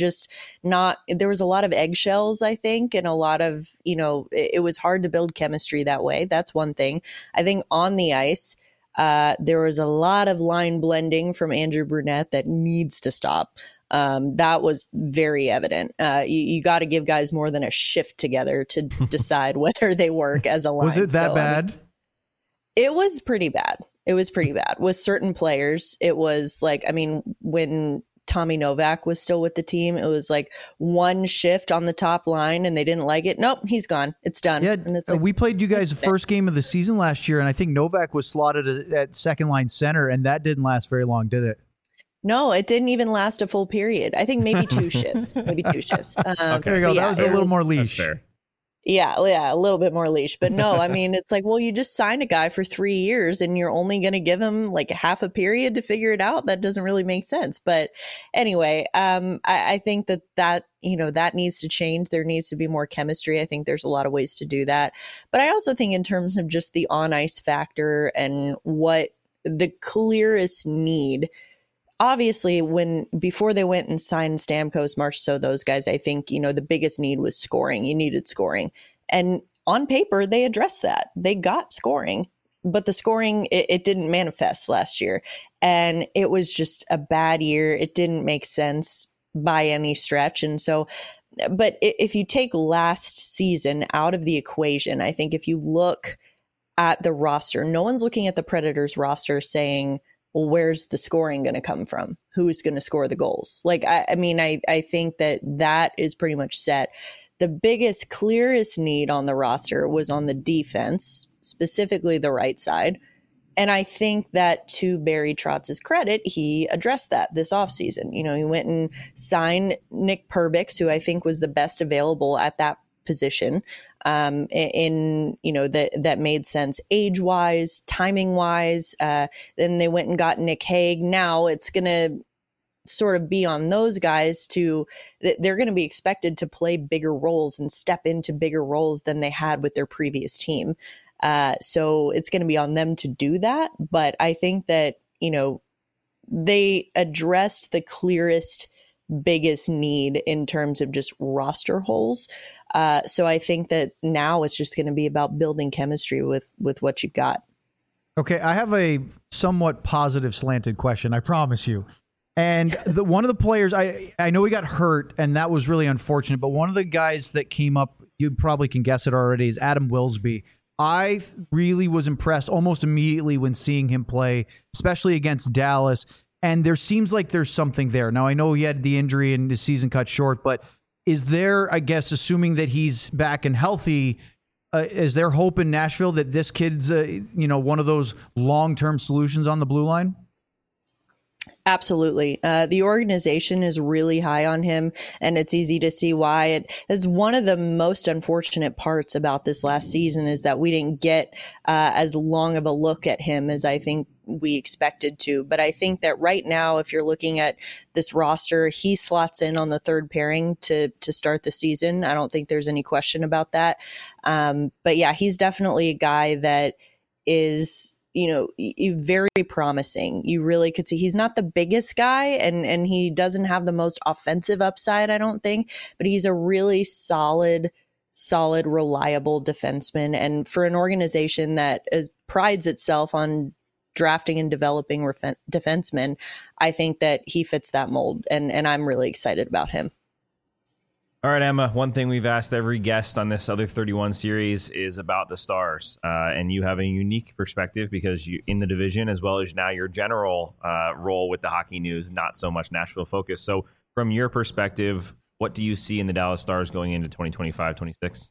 there was a lot of eggshells, I think, and a lot of, you know, it was hard to build chemistry that way. That's one thing. I think on the ice, there was a lot of line blending from Andrew Brunette that needs to stop. That was very evident. You got to give guys more than a shift together to decide whether they work as a line. Was it that bad? I mean, it was pretty bad. It was pretty bad with certain players. It was like, I mean, when Tommy Novak was still with the team, it was like one shift on the top line and they didn't like it. Nope, he's gone. It's done. Yeah, and it's like, we played you guys the first game of the season last year, and I think Novak was slotted at second line center, and that didn't last very long, did it? No, it didn't even last a full period. I think maybe two shifts. Okay, there you go. Yeah, that was a little more leash. Yeah, a little bit more leash. But no, I mean, it's like, well, you just signed a guy for 3 years and you're only going to give him like half a period to figure it out. That doesn't really make sense. But anyway, I think that, you know, that needs to change. There needs to be more chemistry. I think there's a lot of ways to do that. But I also think in terms of just the on ice factor and what the clearest need, obviously, before they went and signed Stamkos, Marchessault, those guys, I think, you know, the biggest need was scoring. You needed scoring. And on paper, they addressed that. They got scoring, but the scoring, it didn't manifest last year. And it was just a bad year. It didn't make sense by any stretch. And so, but if you take last season out of the equation, I think if you look at the roster, no one's looking at the Predators roster saying, well, where's the scoring going to come from? Who's going to score the goals? Like, I mean, I think that is pretty much set. The biggest, clearest need on the roster was on the defense, specifically the right side. And I think that to Barry Trotz's credit, he addressed that this offseason. You know, he went and signed Nick Perbix, who I think was the best available at that position, in, you know, that made sense age wise, timing wise. Then they went and got Nick Hague. Now it's going to sort of be on those guys they're going to be expected to play bigger roles and step into bigger roles than they had with their previous team. So it's going to be on them to do that. But I think that, you know, they addressed the clearest, biggest need in terms of just roster holes. So I think that now it's just going to be about building chemistry with what you got. Okay, I have a somewhat positive slanted question, I promise you. And one of the players, I know he got hurt, and that was really unfortunate, but one of the guys that came up, you probably can guess it already, is Adam Wilsby. I really was impressed almost immediately when seeing him play, especially against Dallas. And there seems like there's something there. Now, I know he had the injury and his season cut short, but is there, I guess, assuming that he's back and healthy, is there hope in Nashville that this kid's, you know, one of those long-term solutions on the blue line? Absolutely. The organization is really high on him, and it's easy to see why. It is one of the most unfortunate parts about this last season is that we didn't get as long of a look at him as I think we expected to. But I think that right now, if you're looking at this roster, he slots in on the third pairing to start the season. I don't think there's any question about that. But yeah, he's definitely a guy that is, you know, very promising. You really could see he's not the biggest guy and he doesn't have the most offensive upside, I don't think, but he's a really solid, reliable defenseman. And for an organization that prides itself on drafting and developing defensemen, I think that he fits that mold. And I'm really excited about him. All right, Emma, one thing we've asked every guest on this Other 31 series is about the Stars. And you have a unique perspective because you in the division, as well as now your general role with the Hockey News, not so much Nashville focus. So from your perspective, what do you see in the Dallas Stars going into 2025-26?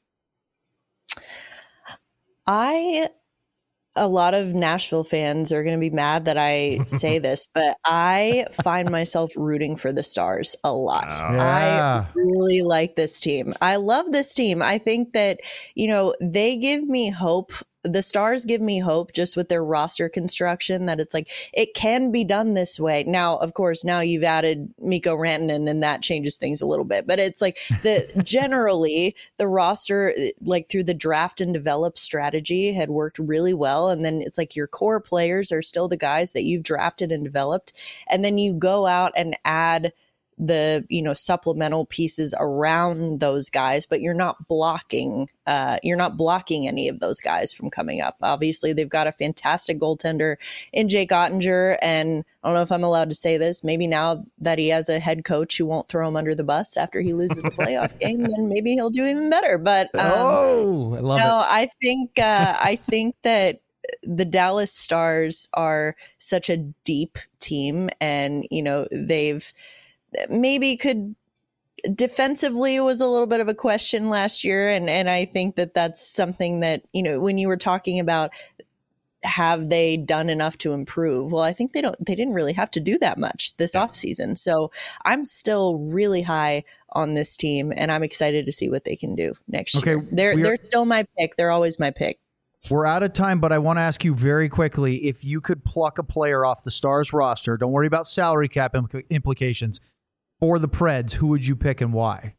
A lot of Nashville fans are going to be mad that I say this, but I find myself rooting for the Stars a lot. Yeah. I really like this team. I love this team. I think that, they give me hope. The Stars give me hope just with their roster construction that it's like, it can be done this way. Now, of course, now you've added Mikko Rantanen and that changes things a little bit, but it's like generally the roster, like through the draft and develop strategy had worked really well. And then it's like your core players are still the guys that you've drafted and developed. And then you go out and add the supplemental pieces around those guys, but you're not blocking any of those guys from coming up. Obviously, they've got a fantastic goaltender in Jake Ottinger, and I don't know if I'm allowed to say this. Maybe now that he has a head coach who won't throw him under the bus after he loses a playoff game, then maybe he'll do even better. But I love it. I think that the Dallas Stars are such a deep team, and they've maybe could defensively was a little bit of a question last year. And I think that that's something that, when you were talking about, have they done enough to improve? Well, I think they didn't really have to do that much this offseason. So I'm still really high on this team and I'm excited to see what they can do next year. They're still my pick. They're always my pick. We're out of time, but I want to ask you very quickly, if you could pluck a player off the Stars roster, don't worry about salary cap implications, for the Preds, who would you pick and why?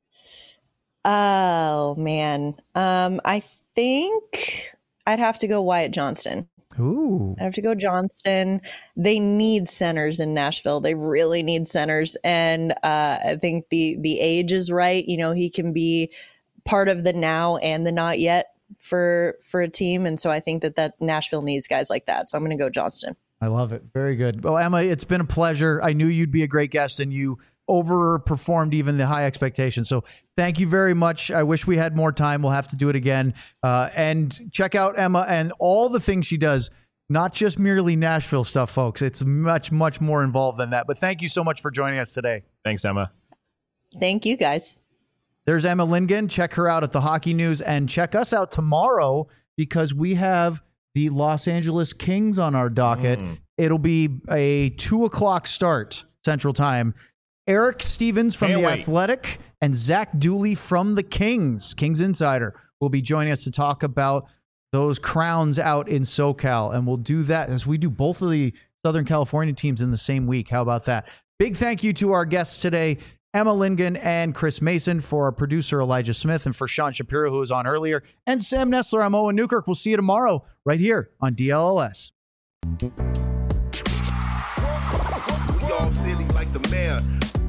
Oh, man. I think I'd have to go Wyatt Johnston. Ooh. I have to go Johnston. They need centers in Nashville. They really need centers. And I think the age is right. He can be part of the now and the not yet for a team. And so I think that Nashville needs guys like that. So I'm going to go Johnston. I love it. Very good. Well, Emma, it's been a pleasure. I knew you'd be a great guest and you overperformed even the high expectations. So thank you very much. I wish we had more time. We'll have to do it again. And check out Emma and all the things she does, not just merely Nashville stuff, folks. It's much, much more involved than that. But thank you so much for joining us today. Thanks, Emma. Thank you, guys. There's Emma Lindgren. Check her out at the Hockey News and check us out tomorrow because we have the Los Angeles Kings on our docket. It'll be a 2:00 start Central Time. Eric Stevens from The Athletic and Zach Dooley from the Kings Insider will be joining us to talk about those crowns out in SoCal. And we'll do that as we do both of the Southern California teams in the same week. How about that? Big thank you to our guests today, Emma Lindgren and Chris Mason, for our producer Elijah Smith, and for Sean Shapiro, who was on earlier, and Sam Nestler. I'm Owen Newkirk. We'll see you tomorrow right here on DLLS. We all silly like the mayor.